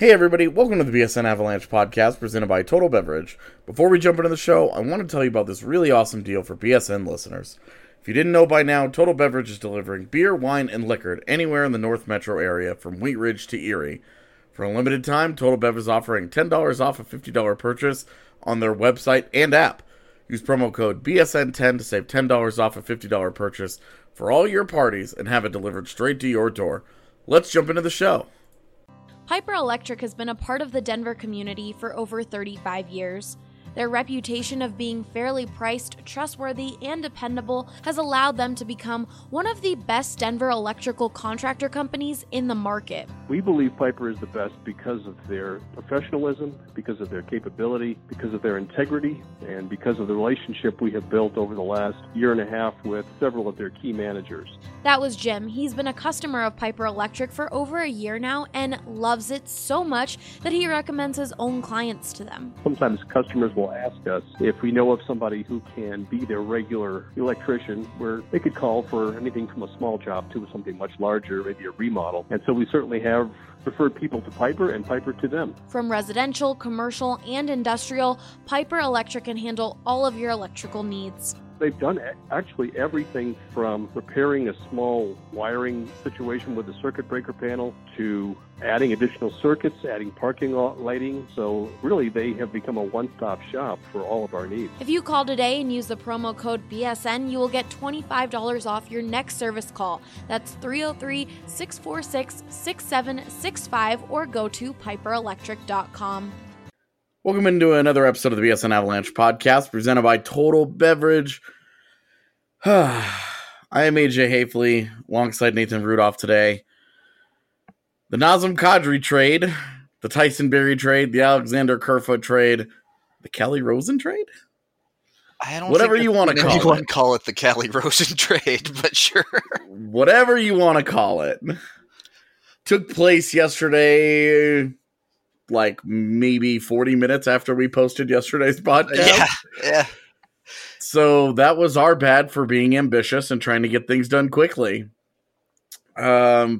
Hey everybody, welcome to the BSN Avalanche podcast presented by Total Beverage. Before we jump into the show, I want to tell you about this really awesome deal for BSN listeners. If you didn't know by now, Total Beverage is delivering beer, wine, and liquor anywhere in the North Metro area from Wheat Ridge to Erie. For a limited time, Total Bev is offering $10 off a $50 purchase on their website and app. Use promo code BSN10 to save $10 off a $50 purchase for all your parties and have it delivered straight to your door. Let's jump into the show. Piper Electric has been a part of the Denver community for over 35 years. Their reputation of being fairly priced, trustworthy, and dependable has allowed them to become one of the best Denver electrical contractor companies in the market. We believe Piper is the best because of their professionalism, because of their capability, because of their integrity, and because of the relationship we have built over the last year and a half with several of their key managers. That was Jim. He's been a customer of Piper Electric for over a year now and loves it so much that he recommends his own clients to them. Sometimes customers will ask us if we know of somebody who can be their regular electrician, where they could call for anything from a small job to something much larger, maybe a remodel. And so we certainly have referred people to Piper and Piper to them. From residential, commercial, and industrial, Piper Electric can handle all of your electrical needs. They've done actually everything from repairing a small wiring situation with the circuit breaker panel to adding additional circuits, adding parking lot lighting. So really, they have become a one-stop shop for all of our needs. If you call today and use the promo code BSN, you will get $25 off your next service call. That's 303-646-6765 or go to piperelectric.com. Welcome into another episode of the BSN Avalanche podcast presented by Total Beverage. I am AJ Hafley alongside Nathan Rudolph today. The Nazem Kadri trade, the Tyson Barrie trade, the Alexander Kerfoot trade, the Calle Rosen trade? I don't Whatever think you want to call anyone it. Call it the Calle Rosen trade, but sure. Whatever you want to call it. Took place yesterday, like maybe 40 minutes after we posted yesterday's podcast. Yeah. So that was our bad for being ambitious and trying to get things done quickly. Wow.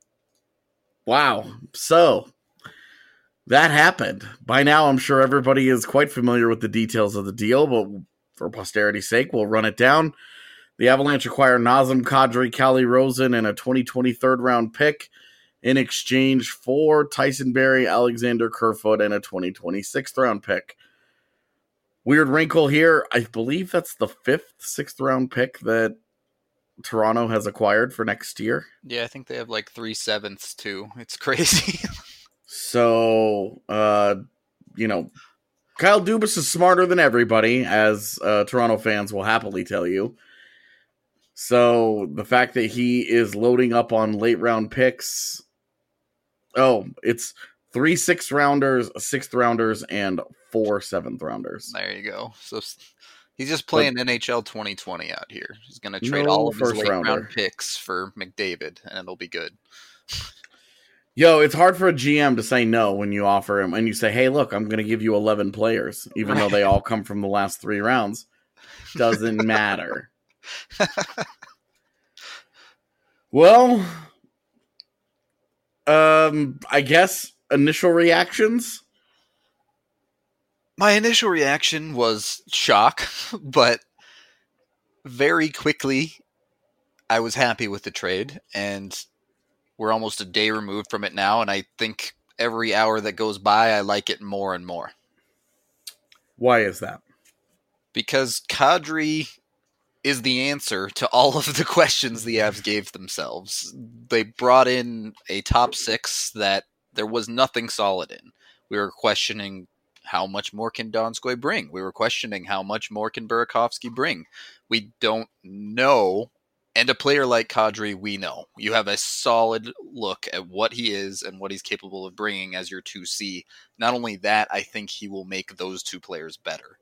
So that happened. By now, I'm sure everybody is quite familiar with the details of the deal, but for posterity's sake, we'll run it down. The Avalanche acquire Nazem Kadri, Calle Rosen, and a 2020 third-round pick in exchange for Tyson Barrie, Alexander Kerfoot, and a 2020 sixth-round pick. Weird wrinkle here. I believe that's the sixth-round pick that Toronto has acquired for next year. Yeah, I think they have like 3/7 too. It's crazy. So, Kyle Dubas is smarter than everybody, as Toronto fans will happily tell you. So, the fact that he is loading up on late-round picks... Oh, it's 3 6th-rounders, 6th-rounders, and 4 7th-rounders. There you go. So he's just playing NHL 2020 out here. He's going to trade all of his late-round picks for McDavid, and it'll be good. Yo, it's hard for a GM to say no when you offer him, and you say, hey, look, I'm going to give you 11 players, even though they all come from the last 3 rounds. Doesn't matter. Well... I guess initial reactions? My initial reaction was shock, but very quickly I was happy with the trade, and we're almost a day removed from it now, and I think every hour that goes by I like it more and more. Why is that? Because Kadri is the answer to all of the questions the Avs gave themselves. They brought in a top 6 that there was nothing solid in. We were questioning how much more can Donskoy bring. We were questioning how much more can Burakovsky bring. We don't know. And a player like Kadri, we know. You have a solid look at what he is and what he's capable of bringing as your 2C. Not only that, I think he will make those 2 players better.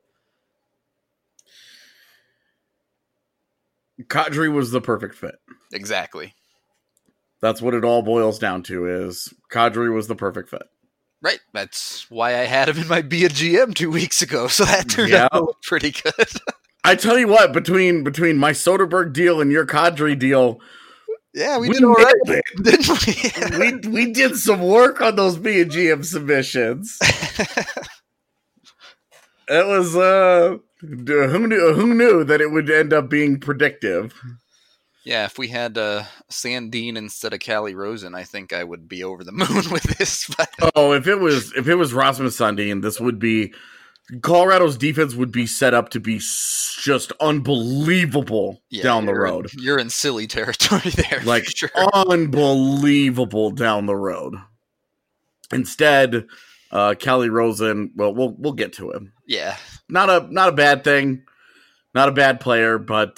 Kadri was the perfect fit. Exactly. That's what it all boils down to, is Kadri was the perfect fit. Right. That's why I had him in my Be a GM 2 weeks ago, so that turned out pretty good. I tell you what, between my Soderberg deal and your Kadri deal, Yeah, we did all right, nailed it. didn't we? We did some work on those B and GM submissions. It was who knew that it would end up being predictive. Yeah, if we had Sandine instead of Callie Rosen, I think I would be over the moon with this. But Oh, if it was Rasmus Sandin, this would be Colorado's defense would be set up to be just unbelievable down the road. You're in silly territory there, Like for sure. unbelievable down the road. Instead, Callie Rosen. Well, we'll get to him. Yeah, Not a bad thing, not a bad player, but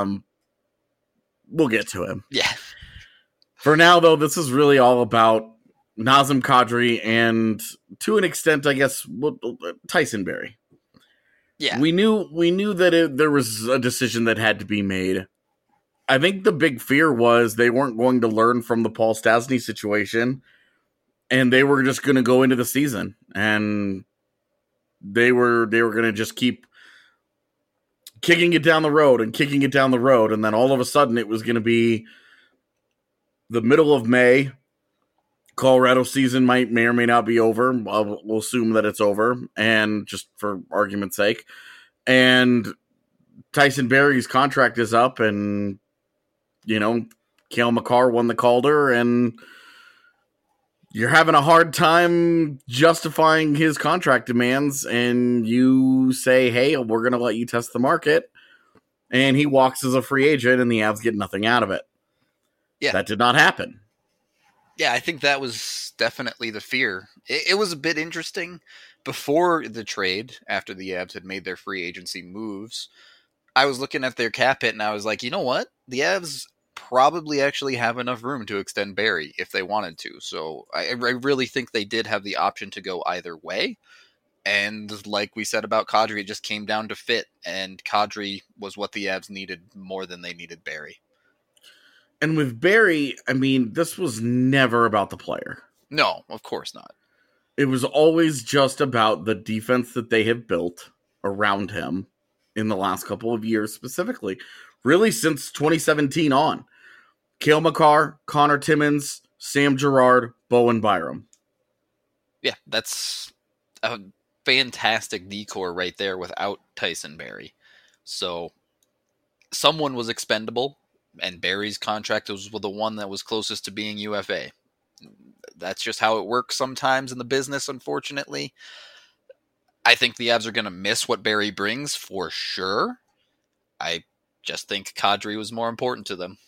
we'll get to him. yeah. For now, though, this is really all about Nazem Kadri and, to an extent, I guess, Tyson Barrie. Yeah. We knew that there was a decision that had to be made. I think the big fear was they weren't going to learn from the Paul Stastny situation, and they were just going to go into the season, and they were going to just keep kicking it down the road, and then all of a sudden it was going to be the middle of May. Colorado season may or may not be over. We'll assume that it's over, and just for argument's sake. And Tyson Barrie's contract is up, and, Cale Makar won the Calder, and you're having a hard time justifying his contract demands, and you say, hey, we're going to let you test the market, and he walks as a free agent, and the Avs get nothing out of it. Yeah. That did not happen. Yeah, I think that was definitely the fear. It was a bit interesting. Before the trade, after the Avs had made their free agency moves, I was looking at their cap hit and I was like, you know what? The Avs probably actually have enough room to extend Barrie if they wanted to. So I really think they did have the option to go either way. And like we said about Kadri, it just came down to fit. And Kadri was what the Avs needed more than they needed Barrie. And with Barrie, I mean, this was never about the player. No, of course not. It was always just about the defense that they have built around him in the last couple of years, specifically. Really, since 2017 on. Cale Makar, Connor Timmins, Sam Girard, Bowen Byram. Yeah, that's a fantastic decor right there without Tyson Barrie. So someone was expendable, and Barrie's contract was the one that was closest to being UFA. That's just how it works sometimes in the business, unfortunately. I think the Avs are going to miss what Barrie brings for sure. I just think Kadri was more important to them.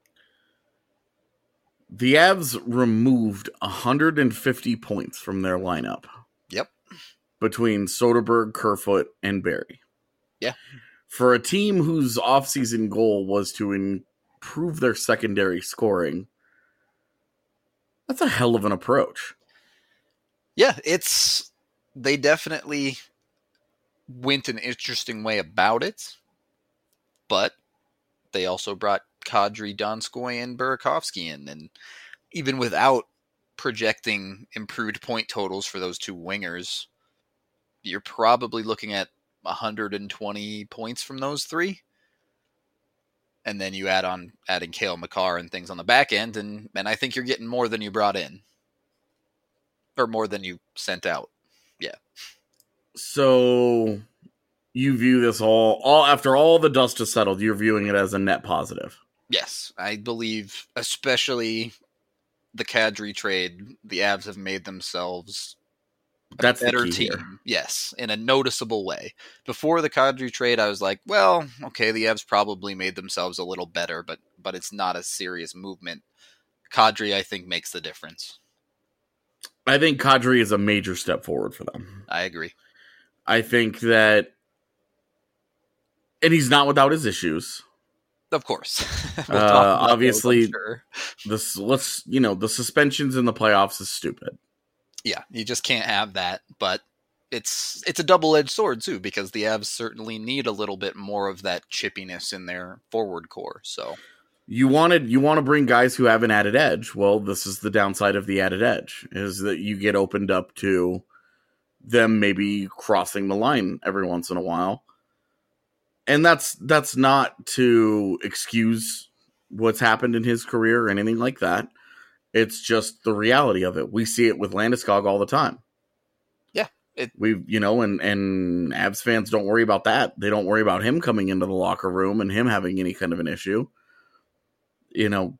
The Avs removed 150 points from their lineup. Yep. Between Soderberg, Kerfoot, and Barrie. Yeah. For a team whose offseason goal was to improve their secondary scoring, that's a hell of an approach. Yeah, they definitely went an interesting way about it, but they also brought Kadri, Donskoy, and Burakovsky in, and even without projecting improved point totals for those two wingers, you're probably looking at 120 points from those three. And then you adding Cale Makar and things on the back end, and I think you're getting more than you brought in. Or more than you sent out. Yeah. So you view this all after all the dust has settled, you're viewing it as a net positive. Yes, I believe, especially the Kadri trade, the Avs have made themselves That's better the key team. here. Yes, in a noticeable way. Before the Kadri trade, I was like, well, okay, the Avs probably made themselves a little better, but it's not a serious movement. Kadri, I think, makes the difference. I think Kadri is a major step forward for them. I agree. I think that, and he's not without his issues. Of course. We'll talk about obviously, those, I'm sure. The suspensions in the playoffs is stupid. Yeah, you just can't have that, but it's a double-edged sword too, because the Avs certainly need a little bit more of that chippiness in their forward core. So you want to bring guys who have an added edge. Well, this is the downside of the added edge, is that you get opened up to them maybe crossing the line every once in a while. And that's not to excuse what's happened in his career or anything like that. It's just the reality of it. We see it with Landeskog all the time. Yeah. And Avs fans don't worry about that. They don't worry about him coming into the locker room and him having any kind of an issue. You know,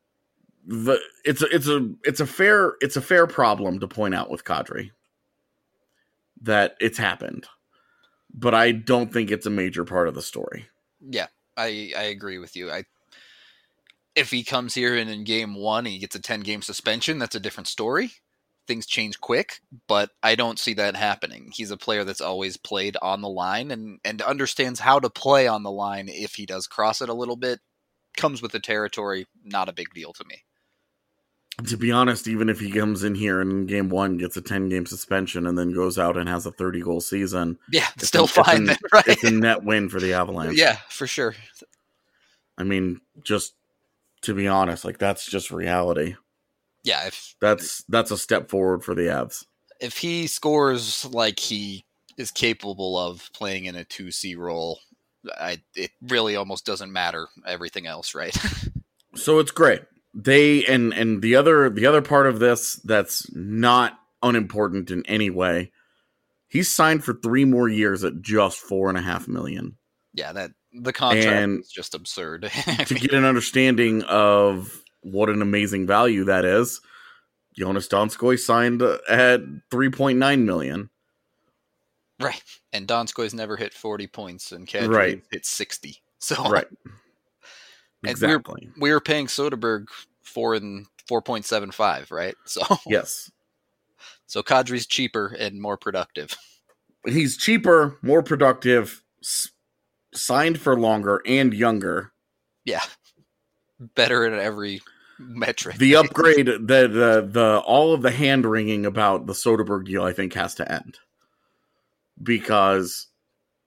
it's a fair problem to point out with Kadri that it's happened, but I don't think it's a major part of the story. Yeah, I agree with you. If he comes here and in game 1 he gets a 10-game suspension, that's a different story. Things change quick, but I don't see that happening. He's a player that's always played on the line and understands how to play on the line. If he does cross it a little bit, comes with the territory, not a big deal to me. To be honest, even if he comes in here and in game 1 gets a 10-game suspension and then goes out and has a 30-goal season, yeah, it's still fine. Right? It's a net win for the Avalanche. Yeah, for sure. I mean, just to be honest, like that's just reality. Yeah, that's a step forward for the Avs. If he scores like he is capable of playing in a 2C role, it really almost doesn't matter everything else, right? So it's great. They and the other part of this that's not unimportant in any way. He's signed for 3 more years at just $4.5 million. Yeah, that the contract is just absurd. To get an understanding of what an amazing value that is, Jonas Donskoi signed at $3.9 million. Right, and Donskoi's never hit 40 points, and Kadri hit 60. So right, exactly. And we were paying Soderberg 4.75, right? So yes. So Kadri's cheaper and more productive. He's cheaper, more productive, signed for longer, and younger. Yeah, better in every metric. The upgrade, the all of the hand wringing about the Soderberg deal, I think, has to end because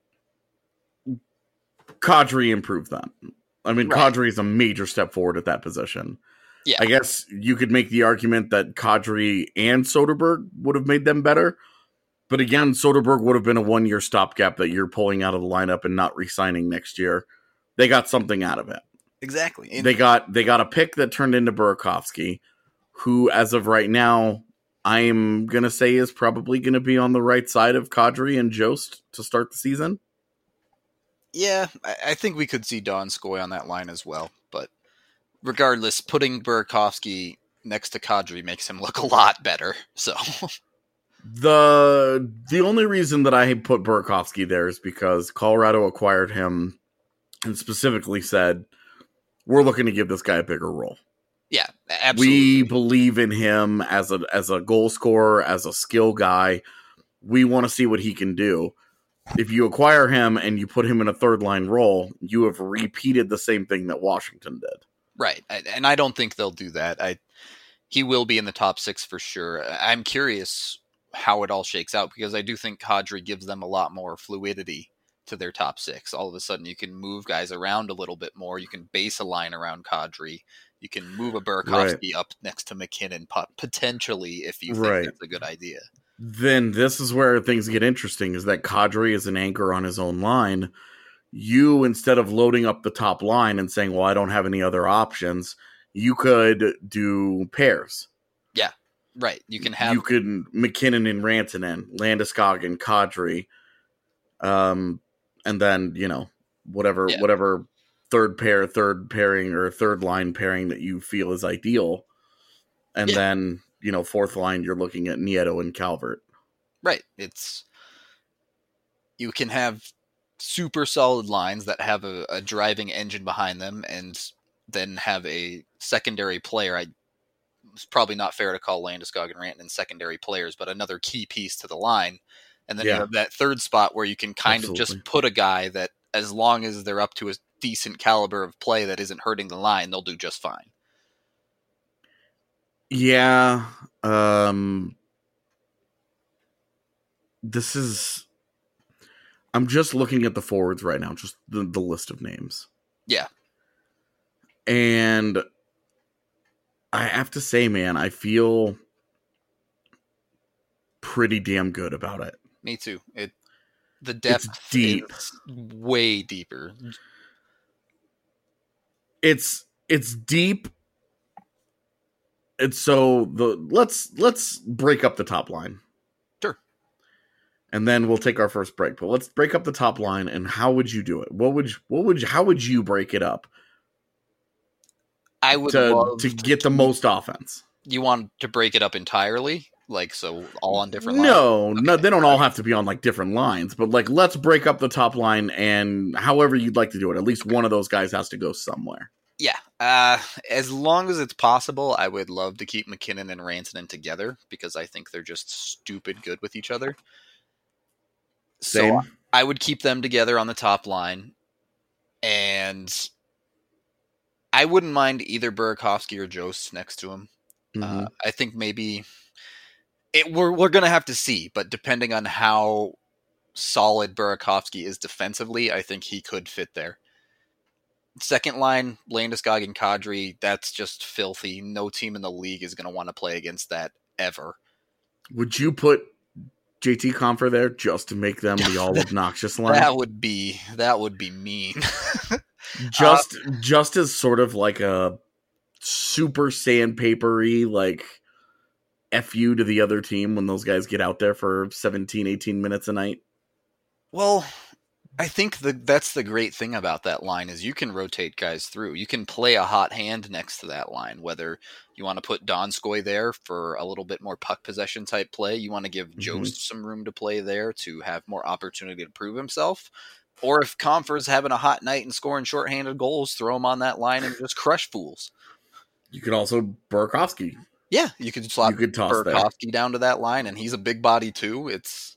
Kadri improved that. I mean, right. Kadri is a major step forward at that position. Yeah, I guess you could make the argument that Kadri and Soderberg would have made them better. But again, Soderberg would have been a 1-year stopgap that you're pulling out of the lineup and not re-signing next year. They got something out of it. Exactly. And they got a pick that turned into Burakovsky, who, as of right now, I'm going to say is probably going to be on the right side of Kadri and Jost to start the season. Yeah, I think we could see Donskoi on that line as well. But regardless, putting Burakovsky next to Kadri makes him look a lot better. So the only reason that I put Burakovsky there is because Colorado acquired him and specifically said, we're looking to give this guy a bigger role. Yeah, absolutely. We believe in him as a goal scorer, as a skill guy. We want to see what he can do. If you acquire him and you put him in a third line role, you have repeated the same thing that Washington did. Right, and I don't think they'll do that. He will be in the top 6 for sure. I'm curious how it all shakes out because I do think Kadri gives them a lot more fluidity to their top 6. All of a sudden, you can move guys around a little bit more. You can base a line around Kadri. You can move a Burakovsky up next to McKinnon potentially if you think that's a good idea. Then this is where things get interesting, is that Kadri is an anchor on his own line. You, instead of loading up the top line and saying, well, I don't have any other options, you could do pairs. Yeah, right. You can have... You could McKinnon and Rantanen, Landeskog and Kadri, and then, whatever third pairing or third line pairing that you feel is ideal. And then, fourth line, you're looking at Nieto and Calvert. Right. You can have super solid lines that have a driving engine behind them and then have a secondary player. It's probably not fair to call Landeskog and Rantanen secondary players, but another key piece to the line. And then you have that third spot where you can kind of just put a guy that, as long as they're up to a decent caliber of play that isn't hurting the line, they'll do just fine. Yeah. I'm just looking at the forwards right now, just the list of names. Yeah. And I have to say, man, I feel pretty damn good about it. Me too. The depth deep. is way deeper. It's it's deep. And so let's break up the top line. Sure. And then we'll take our first break. But let's break up the top line, and how would you do it? How would you break it up? I would love to get the most offense. You want to break it up entirely? Like, so all on different lines? No, they don't all have to be on like different lines, but like let's break up the top line, and however you'd like to do it, at least one of those guys has to go somewhere. Yeah. As long as it's possible, I would love to keep McKinnon and Rantanen together because I think they're just stupid good with each other. Same. So I would keep them together on the top line, and I wouldn't mind either Burakovsky or Jost next to him. Mm-hmm. I think maybe we're going to have to see, but depending on how solid Burakovsky is defensively, I think he could fit there. Second line, Landeskog and Kadri, that's just filthy. No team in the league is going to want to play against that ever. Would you put JT Compher there just to make them the all obnoxious line? That would be mean. just as sort of like a super sandpapery, like FU to the other team when those guys get out there for 17, 18 minutes a night. Well, I think that's the great thing about that line is you can rotate guys through. You can play a hot hand next to that line, whether you want to put Donskoy there for a little bit more puck possession type play. You want to give Jost some room to play there to have more opportunity to prove himself. Or if Compher's having a hot night and scoring shorthanded goals, throw him on that line and just crush fools. You could also Burakovsky. Yeah, you could slot Burakovsky down to that line, and he's a big body too. It's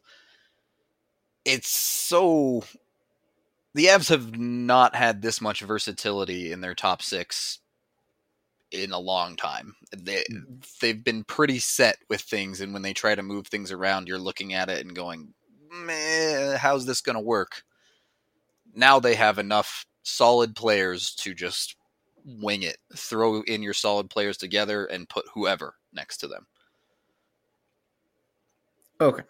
so... The Avs have not had this much versatility in their top six in a long time. They've been pretty set with things, and when they try to move things around, you're looking at it and going, meh, how's this going to work? Now they have enough solid players to just wing it. Throw in your solid players together and put whoever next to them. Okay.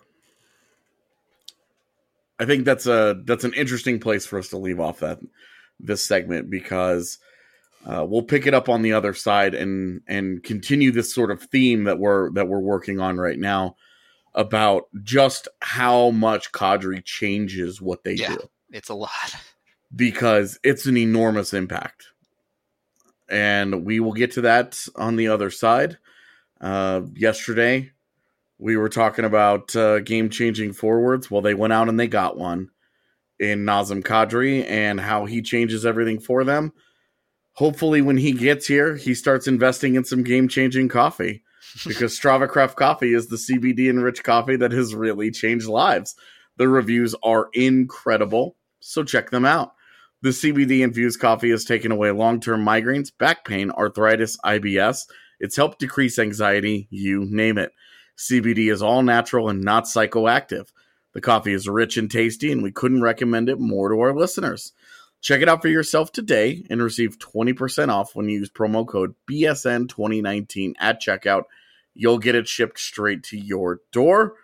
I think that's an interesting place for us to leave off this segment because we'll pick it up on the other side and continue this sort of theme that we're working on right now about just how much Kadri changes what they do. It's a lot because it's an enormous impact, and we will get to that on the other side. Yesterday, we were talking about game-changing forwards. Well, they went out and they got one in Nazem Kadri and how he changes everything for them. Hopefully, when he gets here, he starts investing in some game-changing coffee because Strava Craft Coffee is the CBD-enriched coffee that has really changed lives. The reviews are incredible, so check them out. The CBD-infused coffee has taken away long-term migraines, back pain, arthritis, IBS. It's helped decrease anxiety, you name it. CBD is all natural and not psychoactive. The coffee is rich and tasty, and we couldn't recommend it more to our listeners. Check it out for yourself today and receive 20% off when you use promo code BSN2019 at checkout. You'll get it shipped straight to your door.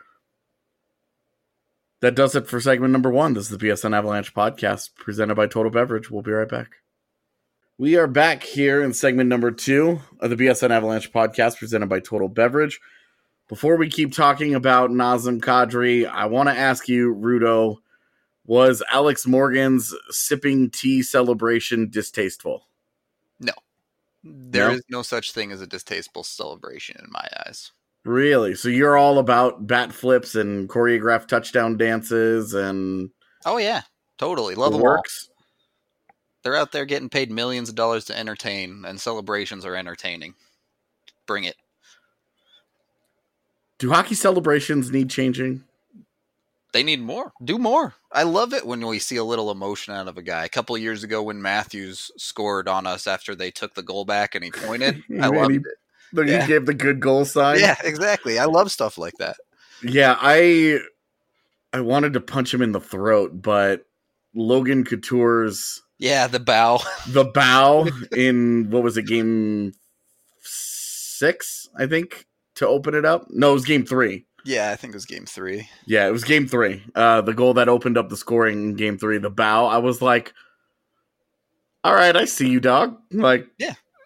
That does it for segment number 1. This is the BSN Avalanche podcast presented by Total Beverage. We'll be right back. We are back here in segment number 2 of the BSN Avalanche podcast presented by Total Beverage. Before we keep talking about Nazem Kadri, I want to ask you, Rudo, was Alex Morgan's sipping tea celebration distasteful? No. There is no such thing as a distasteful celebration in my eyes. Really? So you're all about bat flips and choreographed touchdown dances and... Oh, yeah. Totally. Love them all. They're out there getting paid millions of dollars to entertain, and celebrations are entertaining. Bring it. Do hockey celebrations need changing? They need more. Do more. I love it when we see a little emotion out of a guy. A couple of years ago when Matthews scored on us after they took the goal back and he pointed, I loved it. He gave the good goal sign? Yeah, exactly. I love stuff like that. Yeah, I wanted to punch him in the throat, but Logan Couture's... Yeah, the bow. The bow in, what was it, game 6, I think, to open it up? No, it was game 3. Yeah, I think it was game 3. Yeah, it was game 3. The goal that opened up the scoring in game 3, the bow. I was like, all right, I see you, dog. Like, yeah,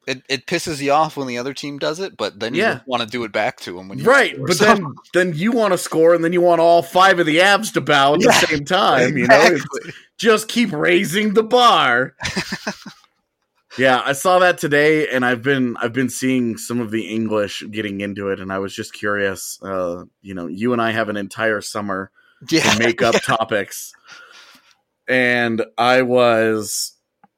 It pisses you off when the other team does it, but then you Yeah. just want to do it back to them when you Right, score. but So- then you want to score, and then you want all 5 of the Avs to bow at the Yeah, same time. You know, exactly. It's just keep raising the bar. Yeah, I saw that today, and I've been seeing some of the English getting into it, and I was just curious. You know, you and I have an entire summer yeah, to make up topics, and I was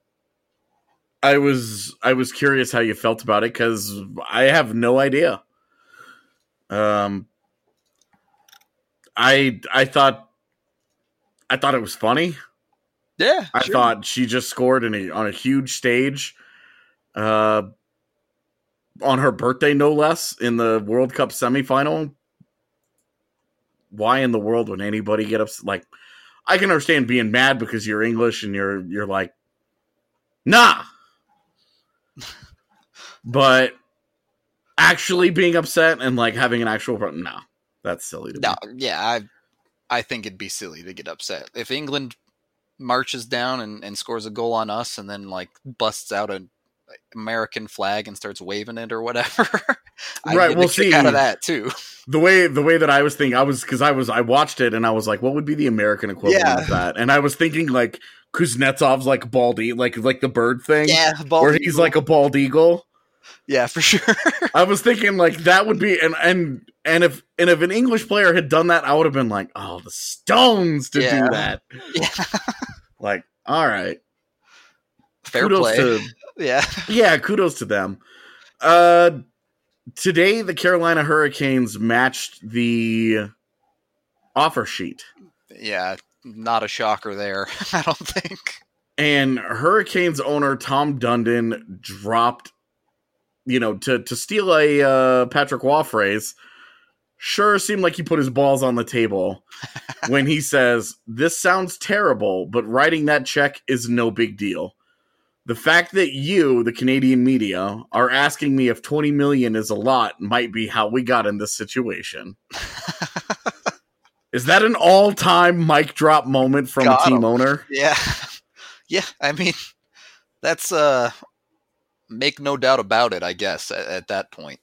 curious how you felt about it because I have no idea. I thought it was funny. yeah. I sure. thought she just scored on a huge stage, on her birthday, no less, in the World Cup semifinal. Why in the world would anybody get upset? Like, I can understand being mad because you're English and you're like, nah. But actually being upset and like having an actual no, that's silly to me. No, yeah, I think it'd be silly to get upset if England marches down and scores a goal on us, and then like busts out an American flag and starts waving it or whatever. Right, we'll see. Out of that too. The way that I was thinking, I watched it and I was like, what would be the American equivalent of that? And I was thinking like Kuznetsov's like bald like the bird thing, Yeah, where he's like a bald eagle. Yeah, for sure. I was thinking like that would be and if an English player had done that, I would have been like, oh, the Stones to Yeah. do that. Yeah. Like, all right, Fair kudos play. to Yeah. kudos to them. Today the Carolina Hurricanes matched the offer sheet, Yeah, not a shocker there, I don't think. and Hurricanes owner Tom Dundon dropped, to steal a Patrick Waugh phrase, sure seemed like he put his balls on the table when he says, "This sounds terrible, but writing that check is no big deal. The fact that you, the Canadian media, are asking me if 20 million is a lot might be how we got in this situation." Is that an all-time mic drop moment from Got a team him. owner? Yeah. Yeah, I mean, that's make no doubt about it, I guess, at that point.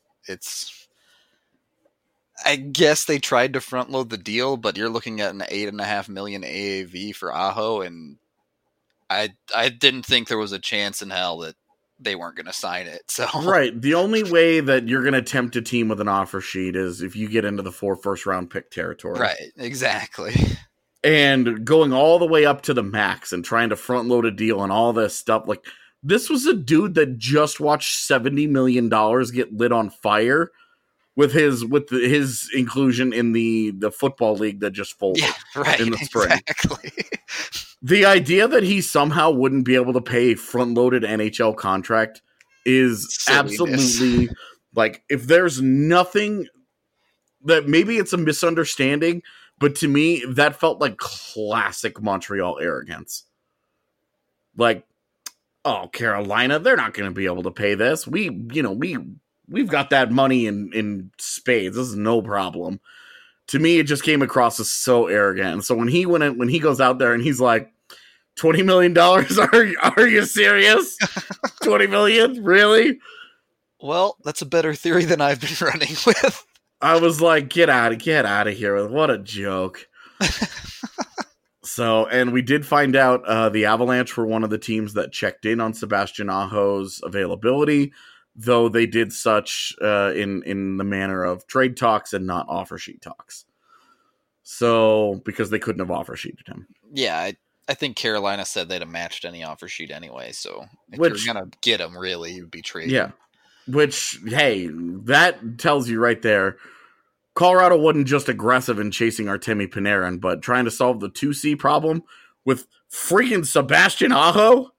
I guess they tried to front load the deal, but you're looking at an $8.5 million AAV for Aho, and I didn't think there was a chance in hell that they weren't going to sign it. So Right. The only way that you're going to tempt a team with an offer sheet is if you get into the 4 first-round pick territory. Right, exactly. And going all the way up to the max and trying to front load a deal and all this stuff. Like, this was a dude that just watched $70 million get lit on fire with his inclusion in the football league that just folded Yeah, right. in the spring. Exactly. The idea that he somehow wouldn't be able to pay a front-loaded NHL contract is Silliness. absolutely, like, if there's nothing that maybe it's a misunderstanding, but to me, that felt like classic Montreal arrogance. Like, oh, Carolina, they're not going to be able to pay this. We've got that money in spades. This is no problem. To me, it just came across as so arrogant. And so when he goes out there and he's like, $20 million? Are you serious? 20 million? Really? Well, that's a better theory than I've been running with. I was like, get out of here. What a joke. So, and we did find out the Avalanche were one of the teams that checked in on Sebastian Aho's availability, though they did such in the manner of trade talks and not offer sheet talks. So, because they couldn't have offer sheeted him. Yeah, I think Carolina said they'd have matched any offer sheet anyway, so if Which- you're going to get him, really, you'd be trading. Yeah. Which, hey, that tells you right there, Colorado wasn't just aggressive in chasing Artemi Panarin, but trying to solve the 2C problem with freaking Sebastian Aho.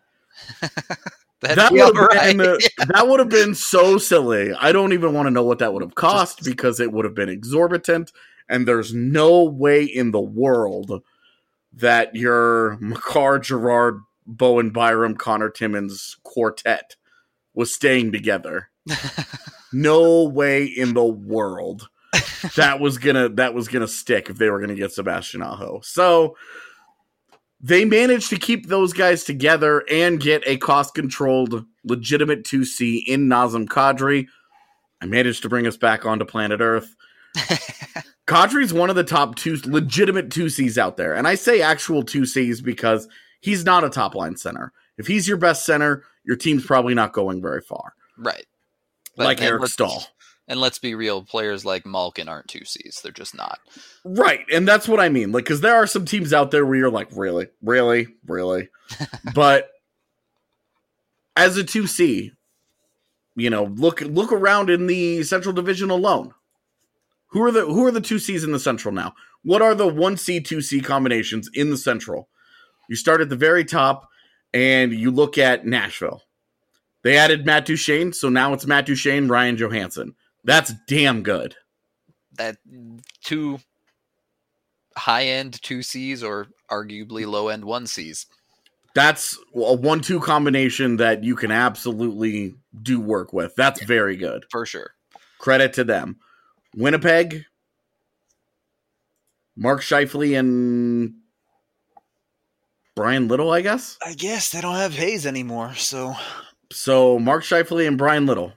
That would have been so silly. I don't even want to know what that would have cost because it would have been exorbitant, and there's no way in the world that your Makar, Gerard, Bowen, Byram, Connor Timmins quartet was staying together. No way in the world that was gonna stick if they were gonna get Sebastian Aho. So they managed to keep those guys together and get a cost-controlled, legitimate 2C in Nazem Kadri. I managed to bring us back onto planet Earth. Kadri's one of the top legitimate 2Cs out there. And I say actual 2Cs because he's not a top-line center. If he's your best center, your team's probably not going very far. Right. Like Eric Stahl. And let's be real, players like Malkin aren't 2Cs. They're just not. Right, and that's what I mean. Like, because there are some teams out there where you're like, really? But as a 2C, look around in the Central Division alone. Who are the 2Cs in the Central now? What are the 1C, 2C combinations in the Central? You start at the very top, and you look at Nashville. They added Matt Duchene, so now it's Matt Duchene, Ryan Johansson. That's damn good. That 2 high-end 2Cs or arguably low-end 1Cs. That's a 1-2 combination that you can absolutely do work with. That's very good. For sure. Credit to them. Winnipeg, Mark Scheifele and Brian Little, I guess? I guess they don't have Hayes anymore, so... So, Mark Scheifele and Brian Little.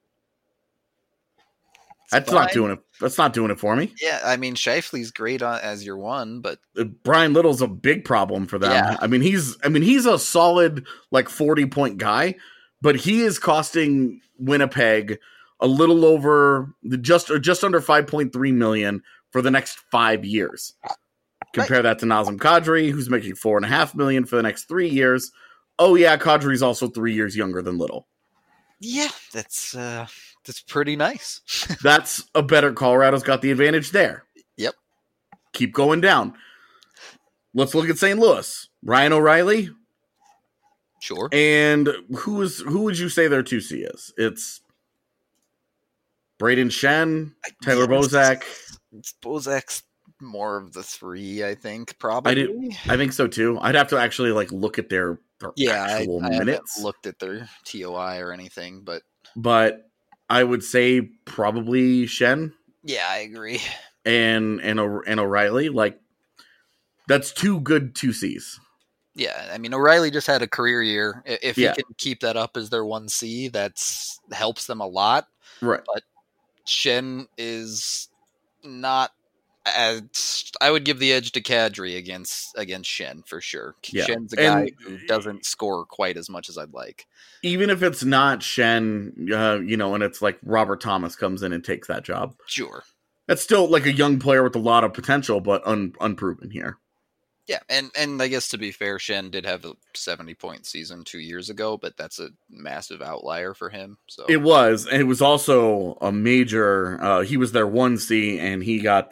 That's not doing it for me. Yeah, I mean, Scheifele's great as your one, but Brian Little's a big problem for them. Yeah. I mean, he's a solid 40-point guy, but he is costing Winnipeg a little over just under $5.3 million for the next 5 years. Compare that to Nazem Kadri, who's making $4.5 million for the next 3 years. Oh yeah, Kadri's also 3 years younger than Little. Yeah, that's pretty nice. That's a better. Colorado's got the advantage there. Yep. Keep going down. Let's look at St. Louis. Ryan O'Reilly. Sure. And who would you say their 2C is? It's Braden Shen, Tyler Bozak. Bozak's more of the 3, I think, probably. I think so too. I'd have to actually look at their actual I minutes. haven't looked at their TOI or anything, but I would say probably Shen. Yeah, I agree. And O'Reilly, that's 2 good 2Cs. Yeah, I mean, O'Reilly just had a career year. If he can keep that up as their 1C, that's helps them a lot. Right. But Shen is not as... I would give the edge to Kadri against Shen for sure. Yeah. Shen's a guy who doesn't score quite as much as I'd like. Even if it's not Shen, and it's like Robert Thomas comes in and takes that job. Sure. That's still a young player with a lot of potential, but unproven here. Yeah, and I guess to be fair, Shen did have a 70-point season 2 years ago, but that's a massive outlier for him. So it was, and it was also a major. He was their 1C, and he got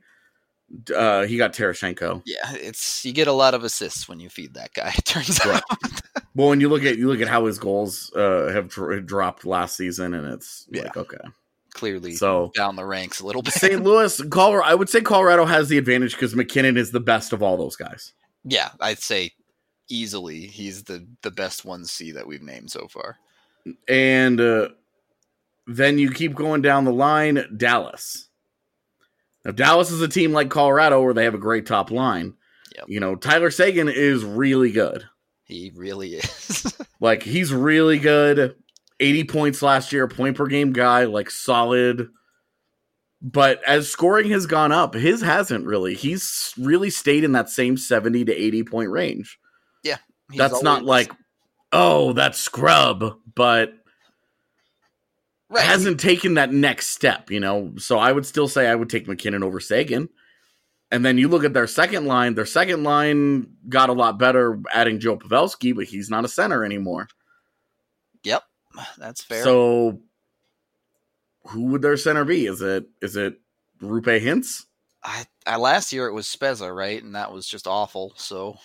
Tarasenko. Yeah, you get a lot of assists when you feed that guy. It turns out. Well, when you look at how his goals have dropped last season, and it's okay. Clearly so down the ranks a little bit. St. Louis, Colorado, I would say Colorado has the advantage because McKinnon is the best of all those guys. Yeah, I'd say easily he's the best 1C that we've named so far. And then you keep going down the line, Dallas. Now, Dallas is a team like Colorado where they have a great top line. Yep. Tyler Seguin is really good. He really is. He's really good. 80 points last year, point per game guy, solid. But as scoring has gone up, his hasn't really. He's really stayed in that same 70 to 80 point range. Yeah. That's not that's scrub, but hasn't taken that next step, So I would still say I would take McKinnon over Seguin. And then you look at their second line. Their second line got a lot better adding Joe Pavelski, but he's not a center anymore. Yep. That's fair. So, who would their center be? Is it Rupe Hintz? I last year it was Spezza, right? And that was just awful. So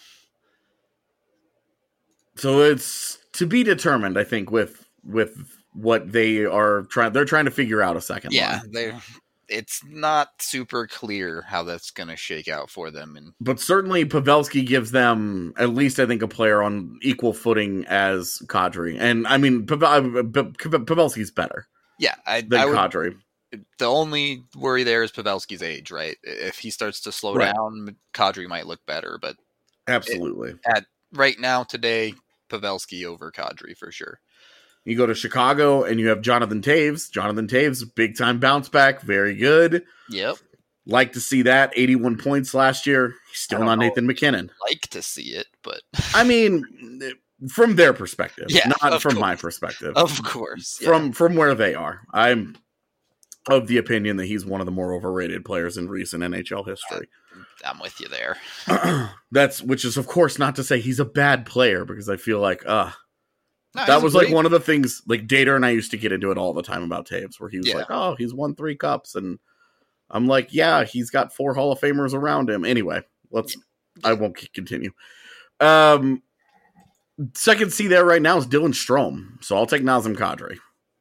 it's to be determined, I think, with what they are trying. They're trying to figure out a second line. Yeah, it's not super clear how that's going to shake out for them. But certainly Pavelski gives them at least, I think, a player on equal footing as Kadri. And I mean, Pavelski's better. Yeah, than Kadri. The only worry there is Pavelski's age, right? If he starts to slow down, Kadri might look better. But Absolutely. At right now, today, Pavelski over Kadri for sure. You go to Chicago and you have Jonathan Toews. Jonathan Toews, big time bounce back, very good. Yep. Like to see that. 81 points last year. He's still not Nathan McKinnon. Like to see it, but I mean, from their perspective, Yeah, not of from course. my perspective. of course, yeah. From where they are. I'm of the opinion that he's one of the more overrated players in recent NHL history. I'm with you there. Which is of course not to say he's a bad player, because I feel like No, that he's was great. like one of the things, like Dater and I used to get into it all the time about Toews, where he was Yeah. like, oh, he's won 3 cups, and I'm like, yeah, he's got 4 Hall of Famers around him. Anyway, I won't continue. Second C there right now is Dylan Strome, so I'll take Nazem Kadri.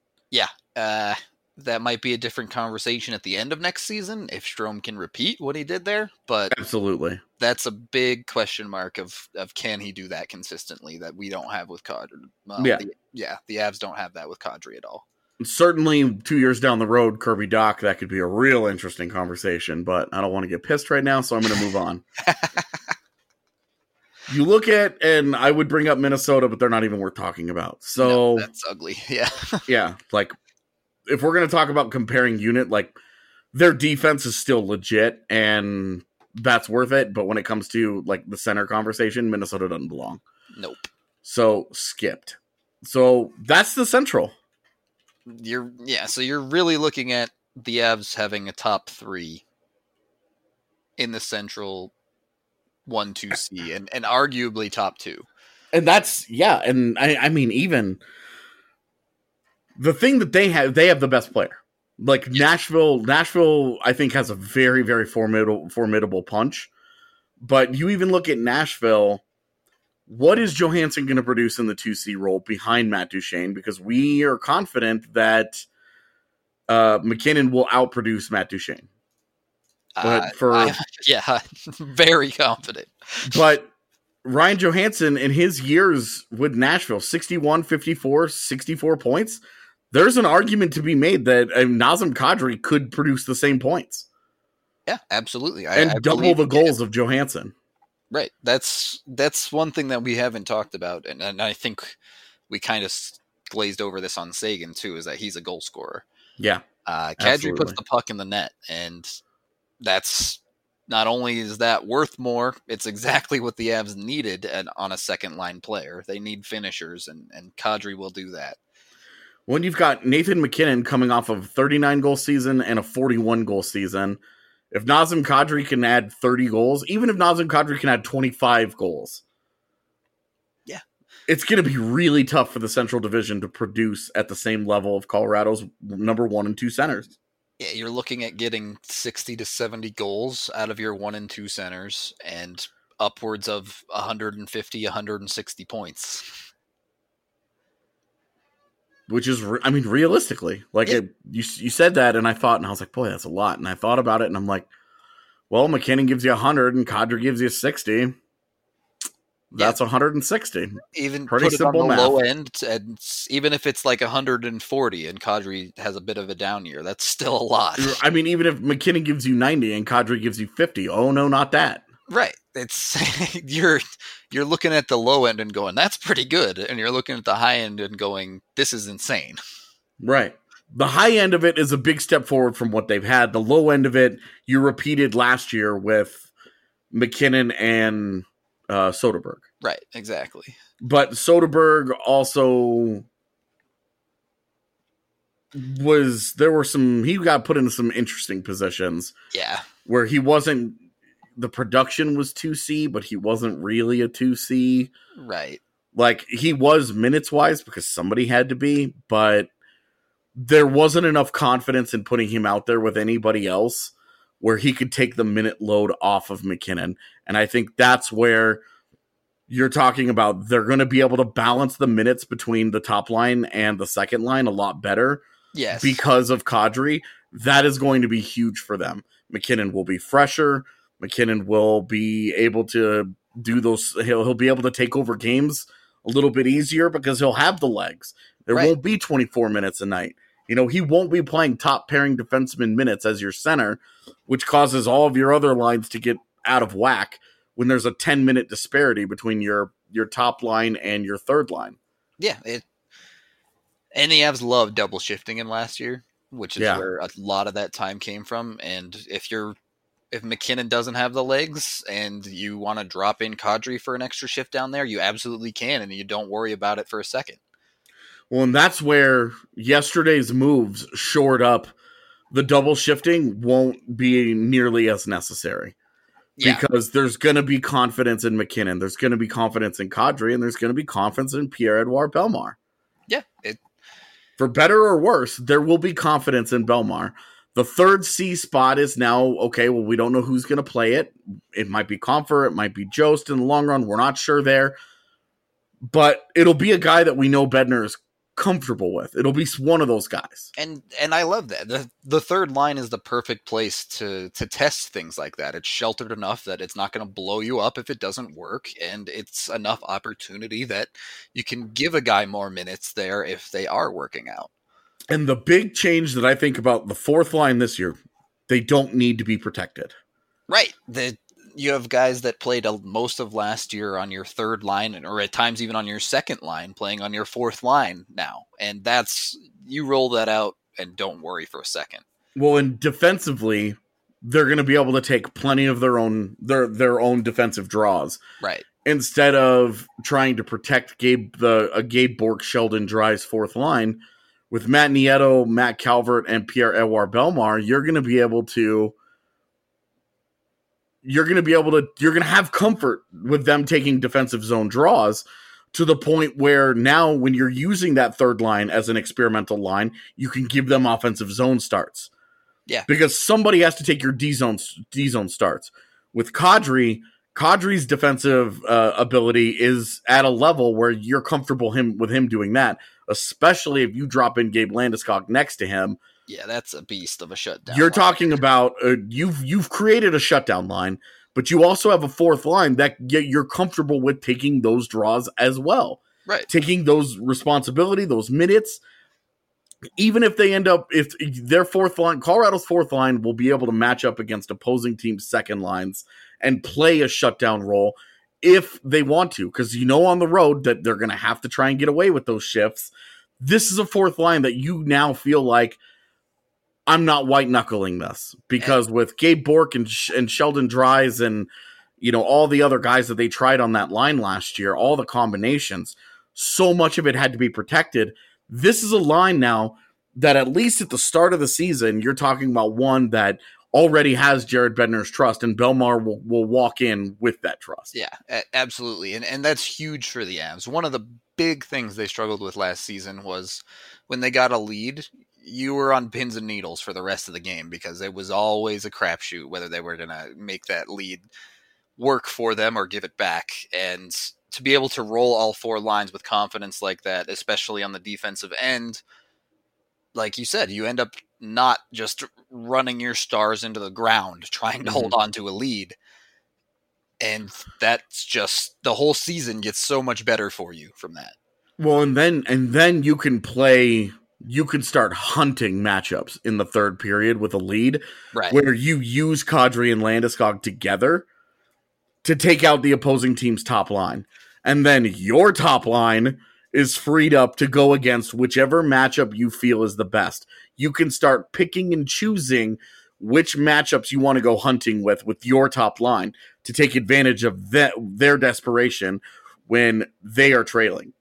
That might be a different conversation at the end of next season if Strome can repeat what he did there, but Absolutely. that's a big question mark of can he do that consistently that we don't have with Kadri. Well, Yeah. The Avs don't have that with Kadri at all. Certainly 2 years down the road, Kirby Doc, that could be a real interesting conversation, but I don't want to get pissed right now, so I'm going to move on. You look at, and I would bring up Minnesota, but they're not even worth talking about. So No, that's ugly. Yeah. yeah, like if we're going to talk about comparing unit, like their defense is still legit and that's worth it. But when it comes to like the center conversation, Minnesota doesn't belong. Nope. So skipped. So that's the Central. So you're really looking at the Avs having a top 3 in the Central 1-2C and arguably top 2. And that's, yeah. And I mean, even the thing that they have the best player. Like Nashville, I think, has a very, very formidable punch. But you even look at Nashville, what is Johansson going to produce in the 2C role behind Matt Duchene? Because we are confident that McKinnon will outproduce Matt Duchene. But very confident. But Ryan Johansson, in his years with Nashville, 61, 54, 64 points, there's an argument to be made that Nazem Kadri could produce the same points. Yeah, absolutely. And double the goals of Johansson. Right. That's one thing that we haven't talked about, and I think we kind of glazed over this on Sagan too, is that he's a goal scorer. Yeah. Kadri puts the puck in the net, and that's not only is that worth more, it's exactly what the Avs needed on a second line player. They need finishers, and Kadri will do that. When you've got Nathan McKinnon coming off of a 39-goal season and a 41-goal season, if Nazem Kadri can add 30 goals, even if Nazem Kadri can add 25 goals, yeah, it's going to be really tough for the Central Division to produce at the same level of Colorado's number 1 and 2 centers. Yeah, you're looking at getting 60 to 70 goals out of your 1 and 2 centers and upwards of 150, 160 points. Which is, realistically, like you said that, and I thought, and I was like, boy, that's a lot. And I thought about it, and I'm like, well, McKinnon gives you 100, and Kadri gives you 60. That's 160. Even pretty put it simple on the math. low end, and even if it's like 140, and Kadri has a bit of a down year, that's still a lot. I mean, even if McKinnon gives you 90 and Kadri gives you 50, oh no, not that. Right. It's you're looking at the low end and going, that's pretty good. And you're looking at the high end and going, this is insane. Right. The high end of it is a big step forward from what they've had. The low end of it, you repeated last year with McKinnon and Soderberg. Right, exactly. But Soderberg also he got put into some interesting positions. Yeah. Where he wasn't, the production was 2C, but he wasn't really a 2C. Right. Like, he was minutes-wise because somebody had to be, but there wasn't enough confidence in putting him out there with anybody else where he could take the minute load off of McKinnon. And I think that's where you're talking about they're going to be able to balance the minutes between the top line and the second line a lot better. Yes. Because of Kadri. That is going to be huge for them. McKinnon will be fresher. McKinnon will be able to do those. He'll be able to take over games a little bit easier because he'll have the legs. There won't be 24 minutes a night. You know, he won't be playing top pairing defenseman minutes as your center, which causes all of your other lines to get out of whack, when there's a 10-minute disparity between your top line and your third line. Yeah, and the Avs loved double shifting him last year, which is where a lot of that time came from. And if McKinnon doesn't have the legs and you want to drop in Kadri for an extra shift down there, you absolutely can, and you don't worry about it for a second. Well, and that's where yesterday's moves shored up the double shifting won't be nearly as necessary. Yeah. Because there's going to be confidence in McKinnon, there's going to be confidence in Kadri, and there's going to be confidence in Pierre-Edouard Bellemare. Yeah. For better or worse, there will be confidence in Bellemare. The third C spot is now, okay, well, we don't know who's going to play it. It might be Compher, it might be Jost in the long run. We're not sure there. But it'll be a guy that we know Bednar is comfortable with. It'll be one of those guys. And I love that. The third line is the perfect place to test things like that. It's sheltered enough that it's not going to blow you up if it doesn't work, and it's enough opportunity that you can give a guy more minutes there if they are working out. And the big change that I think about the fourth line this year, they don't need to be protected. Right. You have guys that played most of last year on your third line, or at times even on your second line, playing on your fourth line now. And you roll that out and don't worry for a second. Well, and defensively, they're going to be able to take plenty of their own defensive draws. Right. Instead of trying to protect Gabe Bourque, Sheldon Dries fourth line, with Matt Nieto, Matt Calvert, and Pierre-Edouard Bellemare, you're going to have comfort with them taking defensive zone draws, to the point where now when you're using that third line as an experimental line, you can give them offensive zone starts. Yeah. Because somebody has to take your D zone starts. With Kadri's defensive ability is at a level where you're comfortable with him doing that, especially if you drop in Gabe Landeskog next to him. Yeah, that's a beast of a shutdown. You're talking about you've created a shutdown line, but you also have a fourth line that you're comfortable with taking those draws as well. Right. Taking those responsibility, those minutes. Even if they end up, if their fourth line, Colorado's fourth line will be able to match up against opposing teams' second lines and play a shutdown role if they want to, because on the road that they're going to have to try and get away with those shifts. This is a fourth line that you now feel like, I'm not white knuckling this, because with Gabe Bourque and Sheldon Dries and all the other guys that they tried on that line last year, all the combinations, so much of it had to be protected. This is a line now that at least at the start of the season, you're talking about one that already has Jared Bednar's trust, and Bellemare will walk in with that trust. Yeah, absolutely. And that's huge for the Avs. One of the big things they struggled with last season was when they got a lead, you were on pins and needles for the rest of the game, because it was always a crapshoot whether they were going to make that lead work for them or give it back. And to be able to roll all four lines with confidence like that, especially on the defensive end, like you said, you end up not just running your stars into the ground trying to hold on to a lead. And that's just, the whole season gets so much better for you from that. Well, and then you can start hunting matchups in the third period with a lead, right, where you use Kadri and Landeskog together to take out the opposing team's top line. And then your top line is freed up to go against whichever matchup you feel is the best. You can start picking and choosing which matchups you want to go hunting with your top line to take advantage of their desperation when they are trailing.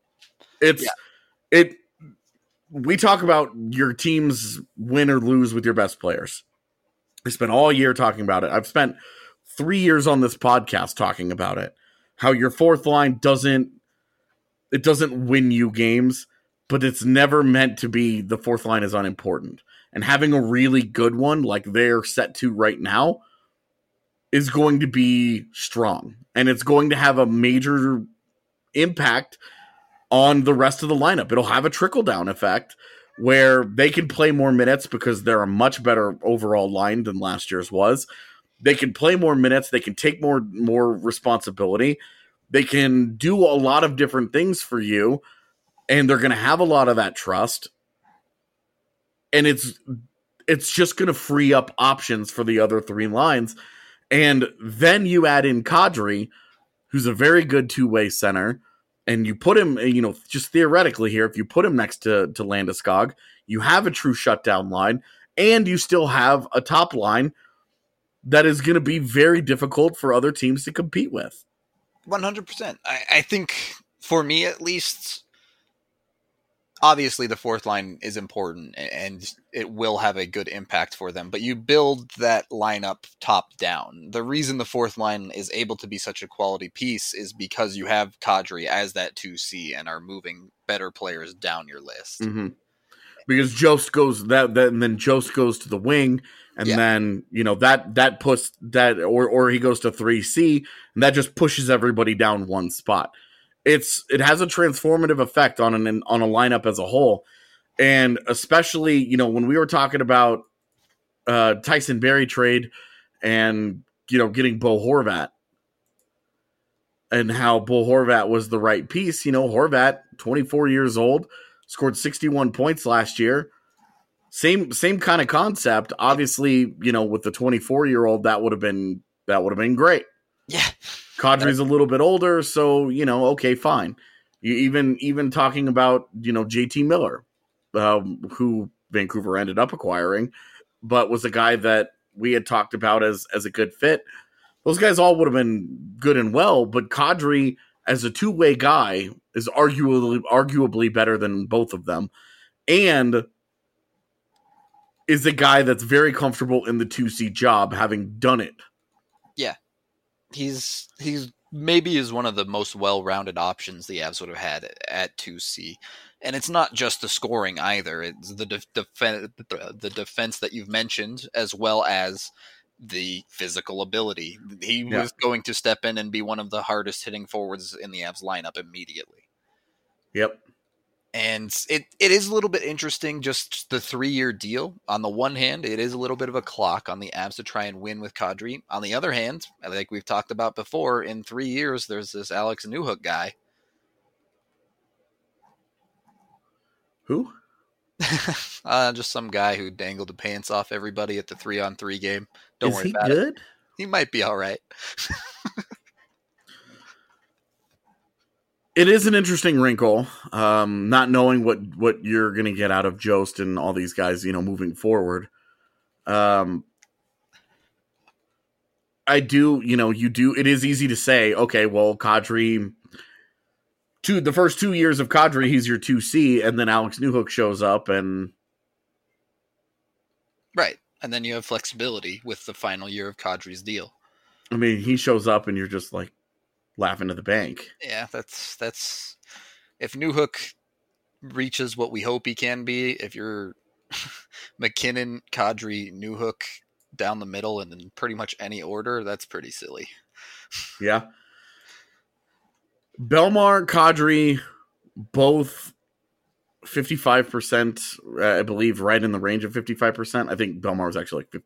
We talk about your team's win or lose with your best players. I spent all year talking about it. I've spent 3 years on this podcast talking about it. How your fourth line doesn't win you games, but it's never meant to be. The fourth line is unimportant. And having a really good one like they're set to right now is going to be strong. And it's going to have a major impact on the rest of the lineup. It'll have a trickle-down effect where they can play more minutes because they're a much better overall line than last year's was. They can play more minutes. They can take more responsibility. They can do a lot of different things for you, and they're going to have a lot of that trust. And it's just going to free up options for the other three lines. And then you add in Kadri, who's a very good two-way center, and you put him, just theoretically here, if you put him next to Landeskog, you have a true shutdown line, and you still have a top line that is going to be very difficult for other teams to compete with. 100%. I think, for me at least, obviously the fourth line is important and it will have a good impact for them, but you build that lineup top down. The reason the fourth line is able to be such a quality piece is because you have Kadri as that 2C and are moving better players down your list. Mm-hmm. Because Jost goes and then Jost goes to the wing, and then that puts that, or he goes to 3C, and that just pushes everybody down one spot. It has a transformative effect on a lineup as a whole, and especially when we were talking about Tyson Barrie trade and getting Bo Horvat and how Bo Horvat was the right piece. Horvat, 24 years old. Scored 61 points last year. Same kind of concept. Obviously, with the 24-year-old, that would have been great. Yeah. Kadri's a little bit older, so okay, fine. You even talking about JT Miller, who Vancouver ended up acquiring, but was a guy that we had talked about as a good fit. Those guys all would have been good and well, but Kadri as a two-way guy is arguably better than both of them, and is a guy that's very comfortable in the 2C job, having done it. Yeah. He's maybe is one of the most well-rounded options the Avs would have had at 2C. And it's not just the scoring either. It's the defense that you've mentioned, as well as the physical ability. He was going to step in and be one of the hardest hitting forwards in the Avs lineup immediately. Yep. And it is a little bit interesting, just the 3-year deal. On the one hand, it is a little bit of a clock on the Avs to try and win with Kadri. On the other hand, like we've talked about before, in 3 years, there's this Alex Newhook guy. Who? Just some guy who dangled the pants off everybody at the 3-on-3 game. Don't worry about it. Is he good? He might be all right. It is an interesting wrinkle, not knowing what you're going to get out of Jost and all these guys, moving forward. I do, it is easy to say, okay, well, Kadri, the first 2 years of Kadri, he's your 2C, and then Alex Newhook shows up and... Right, and then you have flexibility with the final year of Kadri's deal. I mean, he shows up and you're just like, laughing to the bank. Yeah, that's if Newhook reaches what we hope he can be, if you're McKinnon, Kadri, Newhook down the middle and in pretty much any order, that's pretty silly. Yeah. Bellemare, Kadri, both 55%, I believe, right in the range of 55%. I think Bellemare was actually like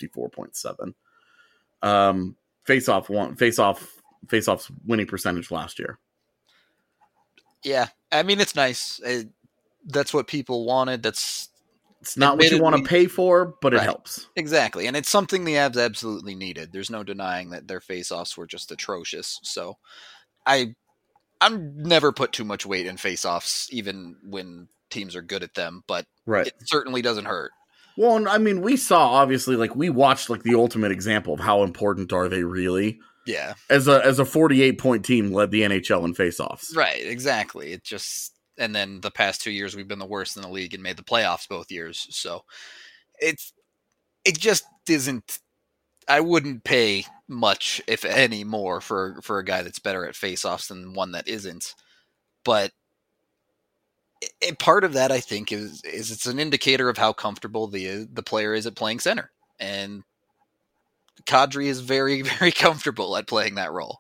54.7. Face-off's winning percentage last year. Yeah, I mean, it's nice. That's what people wanted. It's not what you want to pay for, but it helps. Exactly, and it's something the Avs absolutely needed. There's no denying that their face-offs were just atrocious. So I'm never put too much weight in face-offs, even when teams are good at them, but it certainly doesn't hurt. Well, I mean, we saw, obviously, we watched the ultimate example of how important are they really. Yeah. As a 48-point team led the NHL in faceoffs. Right, exactly. And then the past 2 years we've been the worst in the league and made the playoffs both years. So it just isn't. I wouldn't pay much, if any, more for a guy that's better at faceoffs than one that isn't. But part of that, I think, is it's an indicator of how comfortable the player is at playing center. And Kadri is very, very comfortable at playing that role.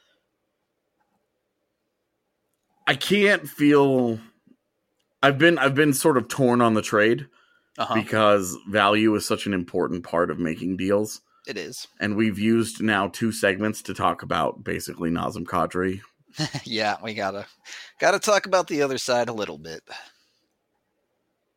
I can't feel... I've been sort of torn on the trade because value is such an important part of making deals. It is. And we've used now 2 segments to talk about basically Nazem Kadri. Yeah, we gotta talk about the other side a little bit.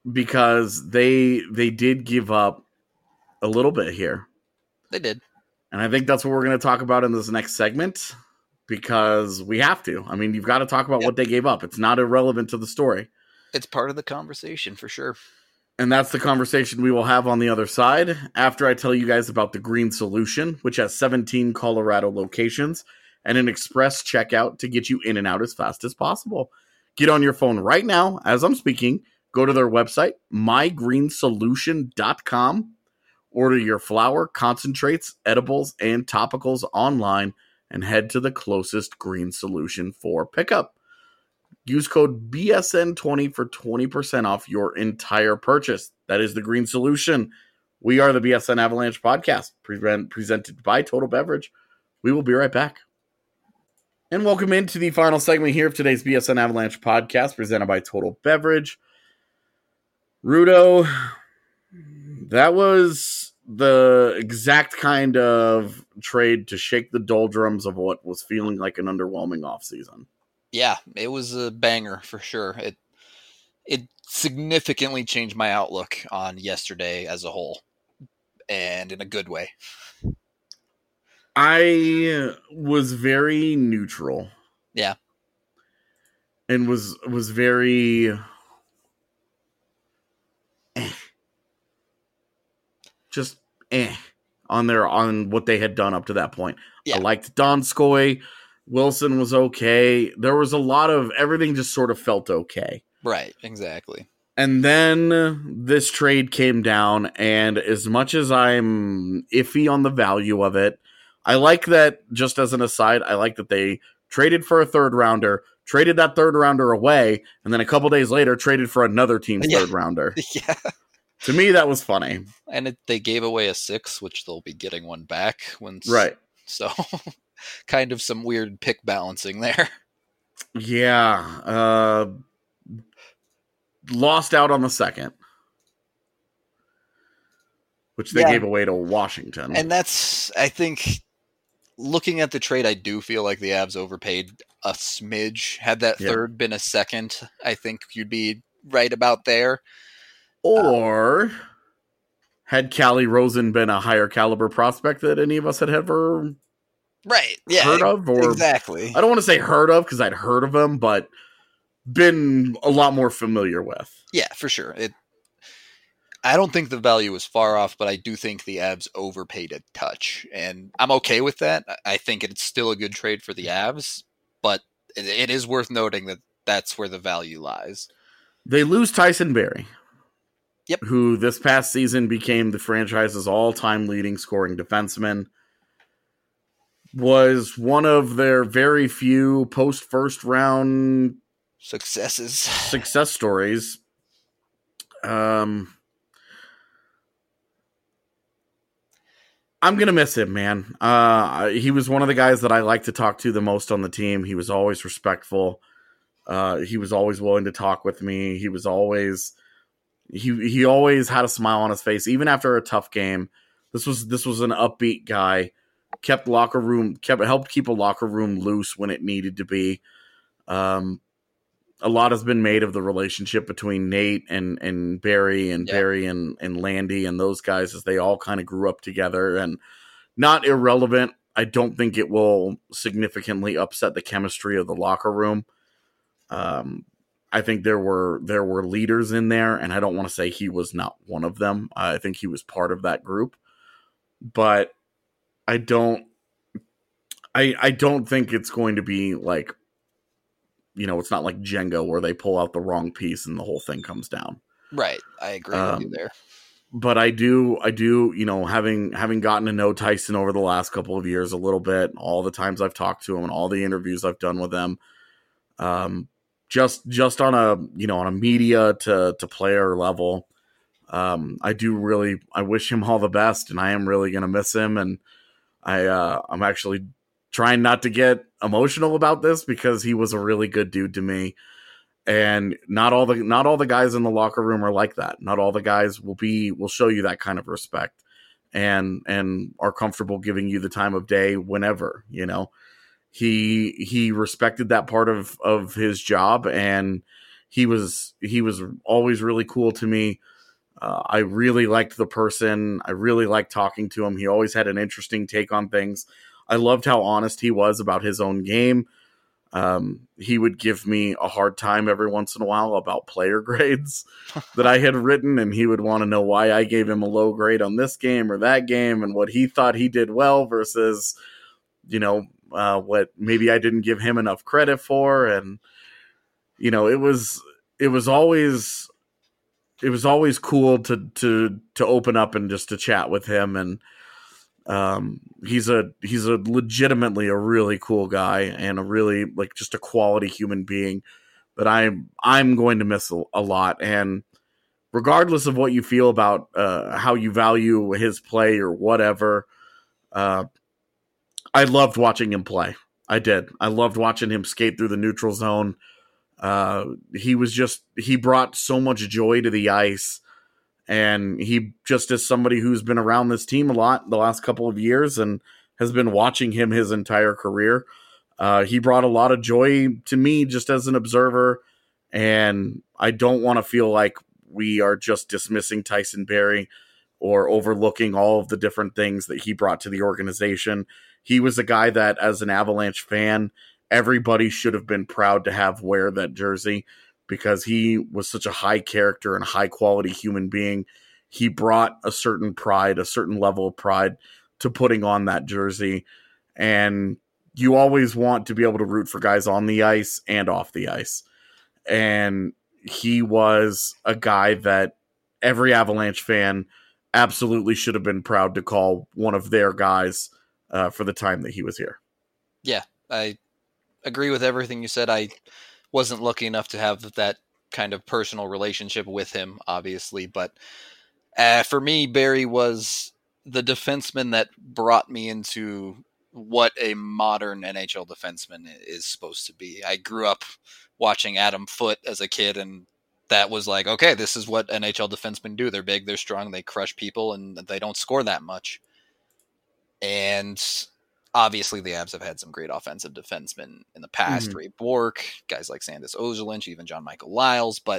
Because they did give up a little bit here. They did. And I think that's what we're going to talk about in this next segment, because we have to. I mean, you've got to talk about what they gave up. It's not irrelevant to the story. It's part of the conversation for sure. And that's the conversation we will have on the other side after I tell you guys about the Green Solution, which has 17 Colorado locations and an express checkout to get you in and out as fast as possible. Get on your phone right now as I'm speaking. Go to their website, mygreensolution.com. Order your flour, concentrates, edibles, and topicals online and head to the closest Green Solution for pickup. Use code BSN20 for 20% off your entire purchase. That is the Green Solution. We are the BSN Avalanche podcast, presented by Total Beverage. We will be right back. And welcome into the final segment here of today's BSN Avalanche podcast, presented by Total Beverage. Rudo, that was the exact kind of trade to shake the doldrums of what was feeling like an underwhelming offseason. Yeah, it was a banger for sure. It significantly changed my outlook on yesterday as a whole, and in a good way. I was very neutral. Yeah. And was very just on what they had done up to that point. Yeah. I liked Donskoy. Wilson was okay. There was a lot of everything just sort of felt okay. Right, exactly. And then this trade came down, and as much as I'm iffy on the value of it, I like that, just as an aside, I like that they traded for a third rounder, traded that third rounder away, and then a couple days later traded for another team's third rounder. Yeah. To me, that was funny. And they gave away a 6, which they'll be getting one back. Right. So, kind of some weird pick balancing there. Yeah. Lost out on the second, which they gave away to Washington. And that's, I think, looking at the trade, I do feel like the Avs overpaid a smidge. Had that third been a second, I think you'd be right about there. Or had Callie Rosen been a higher caliber prospect that any of us had ever heard of? Or, exactly. I don't want to say heard of, because I'd heard of him, but been a lot more familiar with. Yeah, for sure. I don't think the value is far off, but I do think the Avs overpaid a touch, and I'm okay with that. I think it's still a good trade for the Avs, but it is worth noting that that's where the value lies. They lose Tyson Barrie. Yep. Who this past season became the franchise's all-time leading scoring defenseman. Was one of their very few post-first round success stories. I'm going to miss him, man. He was one of the guys that I like to talk to the most on the team. He was always respectful. He was always willing to talk with me. He was always... He always had a smile on his face, even after a tough game. This was an upbeat guy. Helped keep a locker room loose when it needed to be. A lot has been made of the relationship between Nate and Barry, and Barry and Landy and those guys, as they all kind of grew up together. And not irrelevant. I don't think it will significantly upset the chemistry of the locker room. I think there were leaders in there, and I don't want to say he was not one of them. I think he was part of that group, but I don't think it's going to be like, it's not like Jenga where they pull out the wrong piece and the whole thing comes down. Right. I agree with you there. But I do, having gotten to know Tyson over the last couple of years a little bit, all the times I've talked to him and all the interviews I've done with him, just on a media to player level, I wish him all the best, and I am really going to miss him. And I'm actually trying not to get emotional about this, because he was a really good dude to me. And not all the guys in the locker room are like that. Not all the guys will show you that kind of respect and are comfortable giving you the time of day whenever, He respected that part of his job, and he was always really cool to me. I really liked the person. I really liked talking to him. He always had an interesting take on things. I loved how honest he was about his own game. He would give me a hard time every once in a while about player grades that I had written, and he would want to know why I gave him a low grade on this game or that game and what he thought he did well versus, what maybe I didn't give him enough credit for. And, it was always cool to open up and just to chat with him. And he's a legitimately a really cool guy and a really just a quality human being that I'm going to miss a lot. And regardless of what you feel about how you value his play or whatever, I loved watching him play. I did. I loved watching him skate through the neutral zone. He brought so much joy to the ice. And he just is somebody who's been around this team a lot the last couple of years and has been watching him his entire career. He brought a lot of joy to me just as an observer. And I don't want to feel like we are just dismissing Tyson Barrie or overlooking all of the different things that he brought to the organization. He was a guy that, as an Avalanche fan, everybody should have been proud to have wear that jersey, because he was such a high character and high quality human being. He brought a certain pride, a certain level of pride to putting on that jersey. And you always want to be able to root for guys on the ice and off the ice. And he was a guy that every Avalanche fan absolutely should have been proud to call one of their guys for the time that he was here. Yeah, I agree with everything you said. I wasn't lucky enough to have that kind of personal relationship with him, obviously, but for me, Barrie was the defenseman that brought me into what a modern NHL defenseman is supposed to be. I grew up watching Adam Foote as a kid, and that was like, okay, this is what NHL defensemen do. They're big, they're strong, they crush people, and they don't score that much. And obviously, the Avs have had some great offensive defensemen in the past. Ray Bourque, guys like Sandis Ozolinsh, even John Michael Lyles. But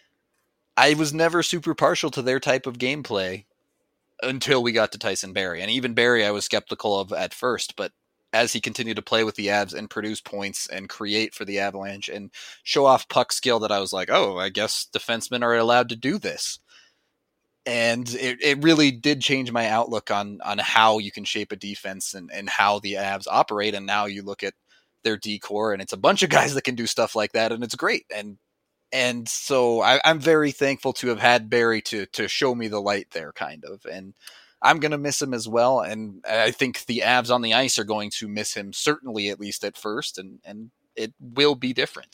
I was never super partial to their type of gameplay until we got to Tyson Barrie. And even Barrie I was skeptical of at first. But as he continued to play with the Avs and produce points and create for the Avalanche and show off puck skill, that I was like, oh, I guess defensemen are allowed to do this. And it really did change my outlook on how you can shape a defense and how the Avs operate. And now you look at their D-core, and it's a bunch of guys that can do stuff like that, and it's great. And so I'm very thankful to have had Barrie to show me the light there, kind of. And I'm going to miss him as well. And I think the Avs on the ice are going to miss him, certainly at least at first, and it will be different.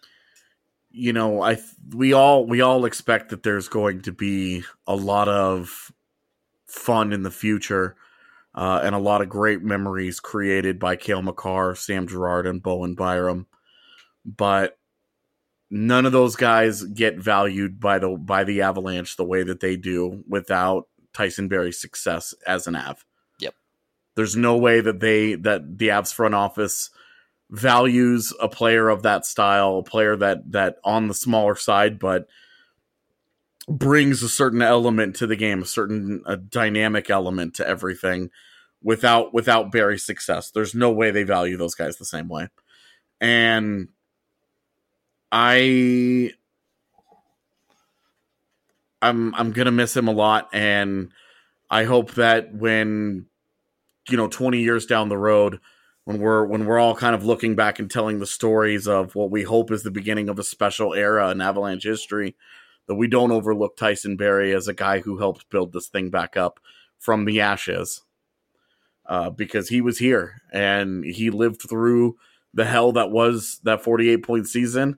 We all expect that there's going to be a lot of fun in the future, and a lot of great memories created by Cale Makar, Sam Girard, and Bowen Byram. But none of those guys get valued by the Avalanche the way that they do without Tyson Barrie's success as an Av. Yep. There's no way that the Avs front office values a player of that style, a player that on the smaller side, but brings a certain element to the game, a dynamic element to everything without Barrie's success. There's no way they value those guys the same way. And I'm going to miss him a lot. And I hope that when, 20 years down the road, when we're all kind of looking back and telling the stories of what we hope is the beginning of a special era in Avalanche history, that we don't overlook Tyson Barrie as a guy who helped build this thing back up from the ashes. Because he was here and he lived through the hell that was that 48-point season.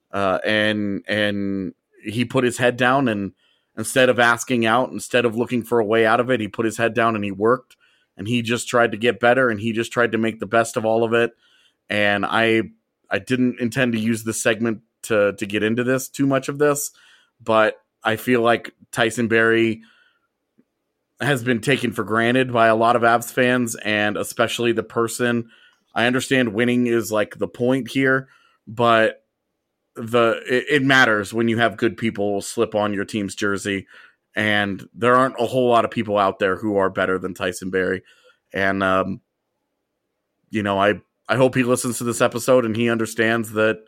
And he put his head down, and instead of asking out, instead of looking for a way out of it, he put his head down and he worked. And he just tried to get better, and he just tried to make the best of all of it. And I didn't intend to use this segment to get into this, too much of this, but I feel like Tyson Barrie has been taken for granted by a lot of Avs fans, and especially the person. I understand winning is like the point here, but it matters when you have good people slip on your team's jersey And there aren't a whole lot of people out there who are better than Tyson Barrie. And, you know, I hope he listens to this episode and he understands that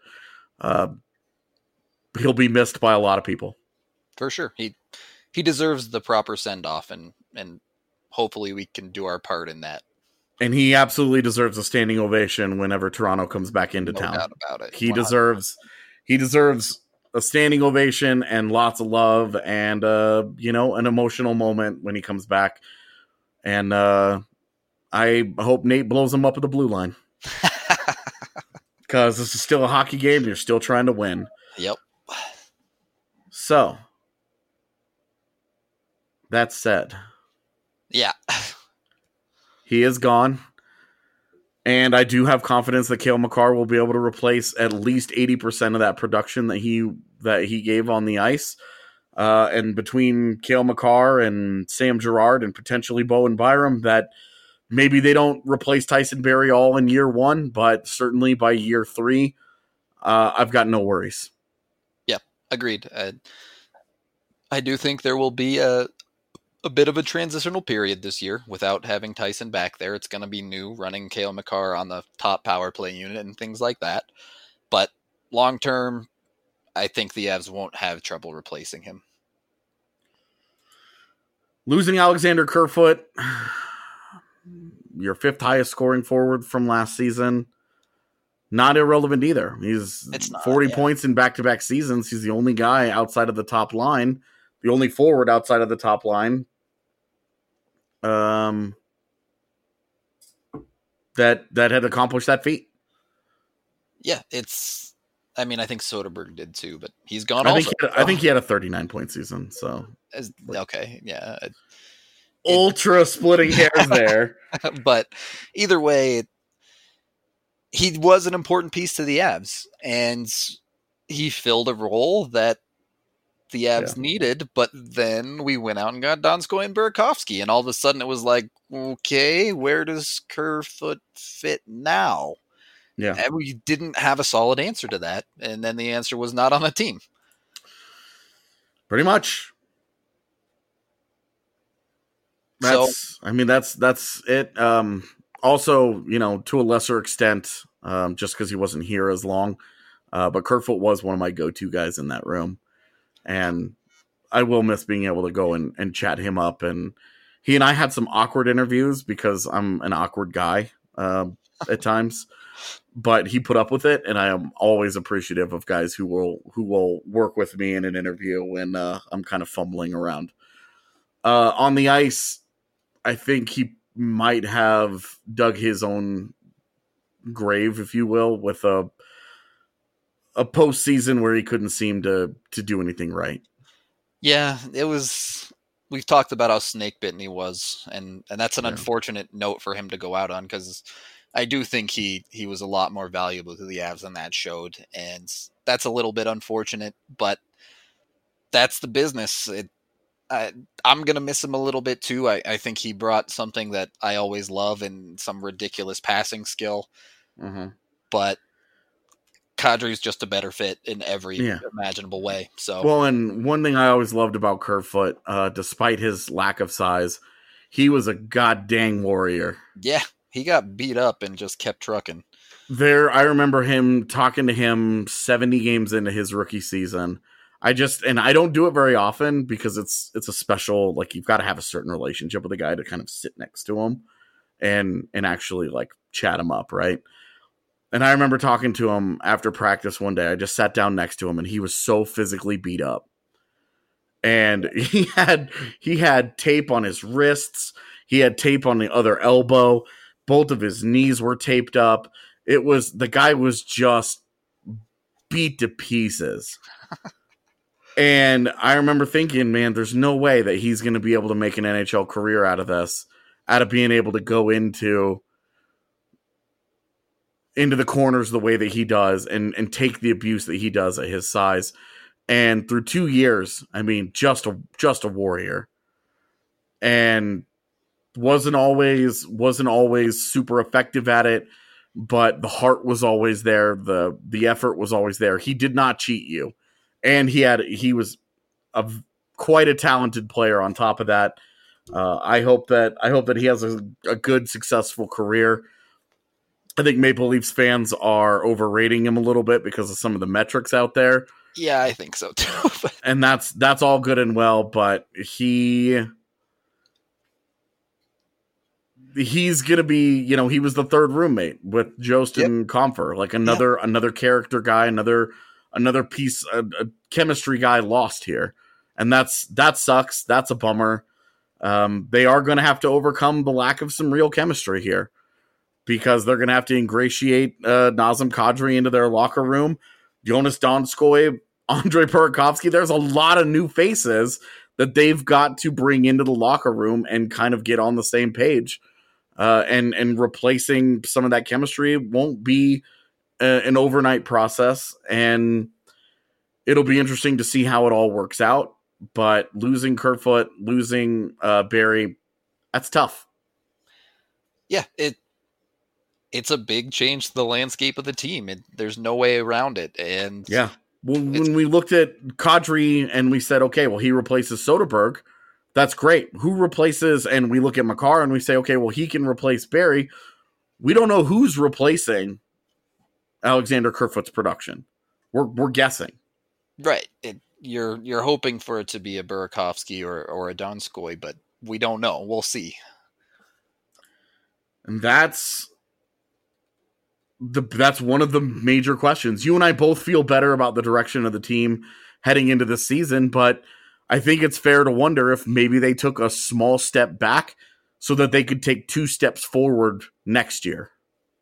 he'll be missed by a lot of people. For sure. He deserves the proper send-off, and hopefully we can do our part in that. And he absolutely deserves a standing ovation whenever Toronto comes back into town. No doubt about it. He deserves a standing ovation and lots of love and, you know, an emotional moment when he comes back. And I hope Nate blows him up at the blue line. Because this is still a hockey game. You're still trying to win. Yep. So, that said. Yeah. He is gone. And I do have confidence that Cale Makar will be able to replace at least 80% of that production that he gave on the ice. And between Cale Makar and Sam Girard and potentially Bowen Byram, that maybe they don't replace Tyson Barrie all in year one, but certainly by year 3, I've got no worries. Yeah, agreed. I do think there will be a bit of a transitional period this year without having Tyson back there. It's going to be new, running Cale Makar on the top power play unit and things like that. But long term, I think the Avs won't have trouble replacing him. Losing Alexander Kerfoot, your 5th highest scoring forward from last season, not irrelevant either. He's 40 points in back-to-back seasons. He's the only guy outside of the top line, the only forward outside of the top line that had accomplished that feat. Yeah, I think Soderberg did too, but he's gone I think he had a 39-point season, so. Okay, yeah. Ultra splitting hairs there. But either way, he was an important piece to the Avs, and he filled a role that the Avs needed, but then we went out and got Donskoy and Burakovsky, and all of a sudden it was like, okay, where does Kerfoot fit now? Yeah. And we didn't have a solid answer to that, and then the answer was not on the team. Pretty much. That's it. Also, you know, to a lesser extent, just because he wasn't here as long, but Kerfoot was one of my go-to guys in that room. And I will miss being able to go and chat him up. And he and I had some awkward interviews because I'm an awkward guy at times. But he put up with it, and I am always appreciative of guys who will work with me in an interview when I'm kind of fumbling around. On the ice, I think he might have dug his own grave, if you will, with a postseason where he couldn't seem to do anything right. Yeah, it was. We've talked about how snake bitten he was, and that's an unfortunate note for him to go out on, because I do think he was a lot more valuable to the Avs than that showed, and that's a little bit unfortunate, but that's the business. I'm going to miss him a little bit too. I think he brought something that I always love and some ridiculous passing skill, but Kadri's just a better fit in every imaginable way. So, well, and one thing I always loved about Kerfoot, despite his lack of size, he was a goddamn warrior. Yeah, he got beat up and just kept trucking. I remember him talking to him 70 games into his rookie season. I don't do it very often because it's a special, like, you've got to have a certain relationship with a guy to kind of sit next to him and actually like chat him up, right? And I remember talking to him after practice one day. I just sat down next to him, and he was so physically beat up. And he had tape on his wrists. He had tape on the other elbow. Both of his knees were taped up. The guy was just beat to pieces. And I remember thinking, man, there's no way that he's going to be able to make an NHL career out of this, out of being able to go into the corners the way that he does and take the abuse that he does at his size. And through 2 years, I mean, just a warrior, and wasn't always super effective at it, but the heart was always there. The effort was always there. He did not cheat you. And he was a quite a talented player on top of that. I hope that he has a good, successful career. I think Maple Leafs fans are overrating him a little bit because of some of the metrics out there. Yeah, I think so too. And that's all good and well, but he's gonna be, he was the third roommate with Jost and Comfer, like another character guy, another piece, a chemistry guy lost here, and that sucks. That's a bummer. They are going to have to overcome the lack of some real chemistry here, because they're going to have to ingratiate Nazem Kadri into their locker room. Jonas Donskoy, Andre Burakovsky. There's a lot of new faces that they've got to bring into the locker room and kind of get on the same page. And replacing some of that chemistry won't be an overnight process. And it'll be interesting to see how it all works out. But losing Kerfoot, losing Barrie, that's tough. Yeah, it's a big change to the landscape of the team. There's no way around it. And yeah, when we looked at Kadri and we said, okay, well, he replaces Soderberg. That's great. Who replaces? And we look at Makar and we say, okay, well, he can replace Barrie. We don't know who's replacing Alexander Kerfoot's production. We're guessing. Right. You're hoping for it to be a Burakovsky or a Donskoy, but we don't know. We'll see. And that's one of the major questions. You and I both feel better about the direction of the team heading into this season, but I think it's fair to wonder if maybe they took a small step back so that they could take 2 steps forward next year.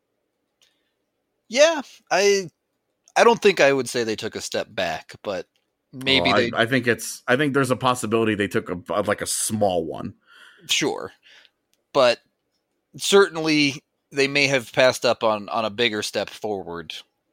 Yeah, I don't think I would say they took a step back, but maybe I think there's a possibility they took a small one. Sure. But certainly they may have passed up on a bigger step forward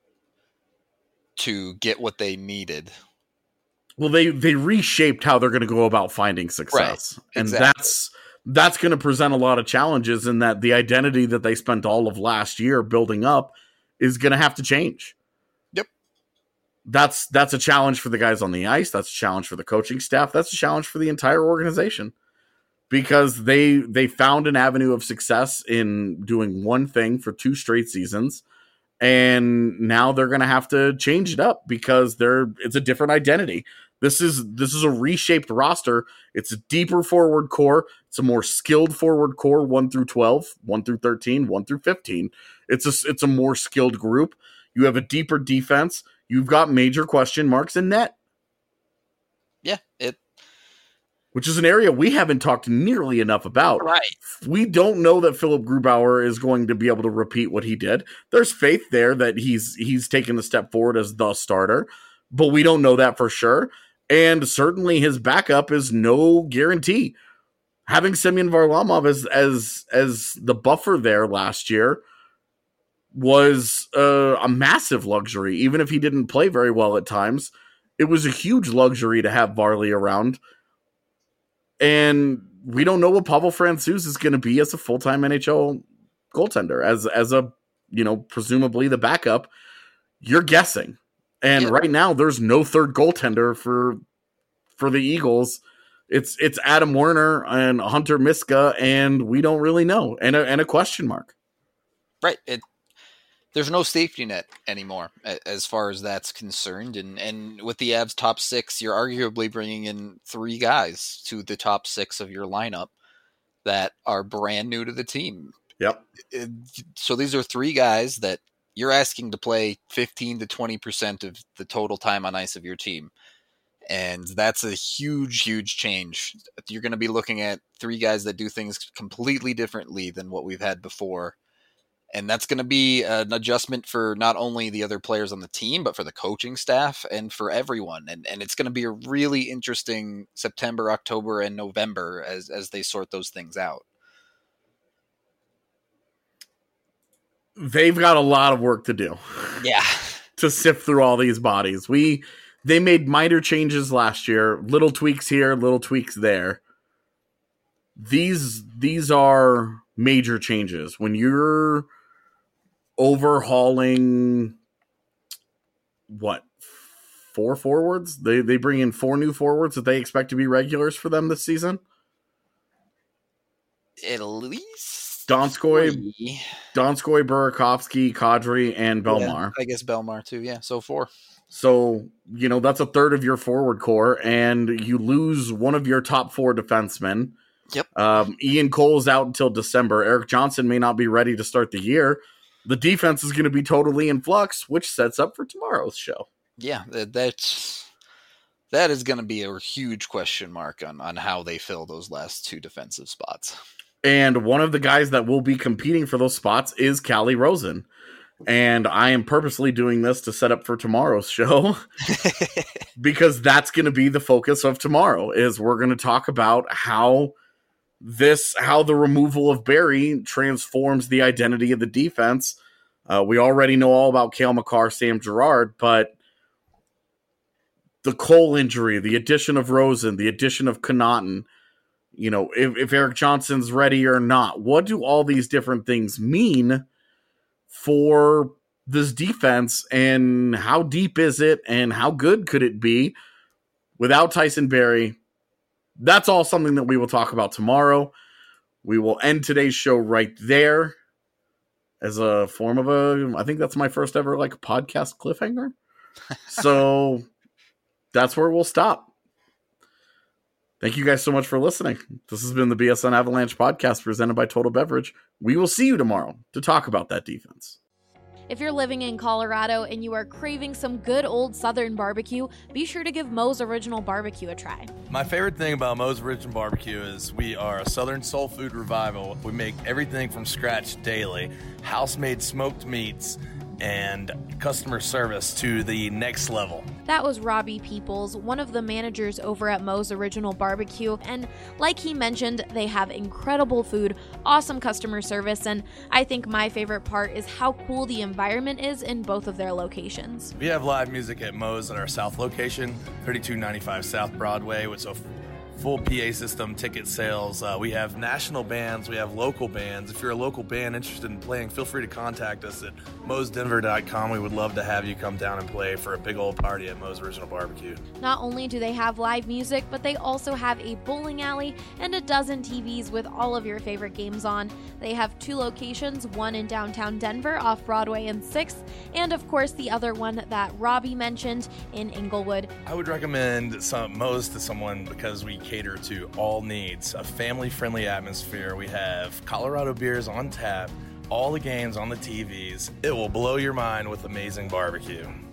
to get what they needed. Well, they reshaped how they're going to go about finding success. Right, and exactly. That's going to present a lot of challenges, in that the identity that they spent all of last year building up is going to have to change. Yep. That's a challenge for the guys on the ice. That's a challenge for the coaching staff. That's a challenge for the entire organization, because they found an avenue of success in doing one thing for 2 straight seasons. And now they're going to have to change it up because it's a different identity. This is a reshaped roster. It's a deeper forward core. It's a more skilled forward core, 1 through 12, 1 through 13, 1 through 15. It's a more skilled group. You have a deeper defense. You've got major question marks in net. Yeah, which is an area we haven't talked nearly enough about. Right. We don't know that Philip Grubauer is going to be able to repeat what he did. There's faith there that he's taken a step forward as the starter, but we don't know that for sure. And certainly his backup is no guarantee. Having Semyon Varlamov as the buffer there last year was a massive luxury. Even if he didn't play very well at times, it was a huge luxury to have Varley around. And we don't know what Pavel Francouz is going to be as a full-time NHL goaltender, as a, presumably the backup. You're guessing. And right now there's no third goaltender for the Eagles. It's Adam Werner and Hunter Miska, and we don't really know. And a question mark. Right. There's no safety net anymore as far as that's concerned. And with the Avs top 6, you're arguably bringing in 3 guys to the top 6 of your lineup that are brand new to the team. Yep. So these are 3 guys that you're asking to play 15 to 20% of the total time on ice of your team. And that's a huge, huge change. You're going to be looking at 3 guys that do things completely differently than what we've had before. And that's going to be an adjustment for not only the other players on the team, but for the coaching staff and for everyone. And it's going to be a really interesting September, October, and November as they sort those things out. They've got a lot of work to do. Yeah. To sift through all these bodies. They made minor changes last year, little tweaks here, little tweaks there. These are major changes. When you're overhauling 4 forwards. They bring in 4 new forwards that they expect to be regulars for them this season. At least Donskoy, 3. Burakovsky, Kadri, and Belmar. Yeah, I guess Belmar too. Yeah, so 4. So, that's a third of your forward core, and you lose one of your top 4 defensemen. Yep. Ian Cole's out until December. Erik Johnson may not be ready to start the year. The defense is going to be totally in flux, which sets up for tomorrow's show. Yeah, that is going to be a huge question mark on how they fill those last 2 defensive spots. And one of the guys that will be competing for those spots is Calle Rosen. And I am purposely doing this to set up for tomorrow's show because that's going to be the focus of tomorrow. Is we're going to talk about how the removal of Barrie transforms the identity of the defense. We already know all about Cale Makar, Sam Girard, but the Cole injury, the addition of Rosen, the addition of Connaughton, if Erik Johnson's ready or not, what do all these different things mean for this defense, and how deep is it, and how good could it be without Tyson Barrie? That's all something that we will talk about tomorrow. We will end today's show right there as a form of I think that's my first ever podcast cliffhanger. So that's where we'll stop. Thank you guys so much for listening. This has been the BSN Avalanche podcast presented by Total Beverage. We will see you tomorrow to talk about that defense. If you're living in Colorado and you are craving some good old Southern barbecue, be sure to give Moe's Original Barbecue a try. My favorite thing about Moe's Original Barbecue is we are a Southern soul food revival. We make everything from scratch daily, house-made smoked meats, and customer service to the next level. That was Robbie Peoples, one of the managers over at Moe's Original Barbecue, and like he mentioned, they have incredible food, awesome customer service, and I think my favorite part is how cool the environment is in both of their locations. We have live music at Moe's at our South location, 3295 South Broadway, with a full PA system, ticket sales. We have national bands, we have local bands. If you're a local band interested in playing, feel free to contact us at moesdenver.com. We would love to have you come down and play for a big old party at Moe's Original Barbecue. Not only do they have live music, but they also have a bowling alley and a dozen TVs with all of your favorite games on. They have 2 locations, one in downtown Denver off Broadway and 6th, and of course the other one that Robbie mentioned in Inglewood. I would recommend Moe's to someone because we cater to all needs, a family-friendly atmosphere. We have Colorado beers on tap, all the games on the TVs. It will blow your mind with amazing barbecue.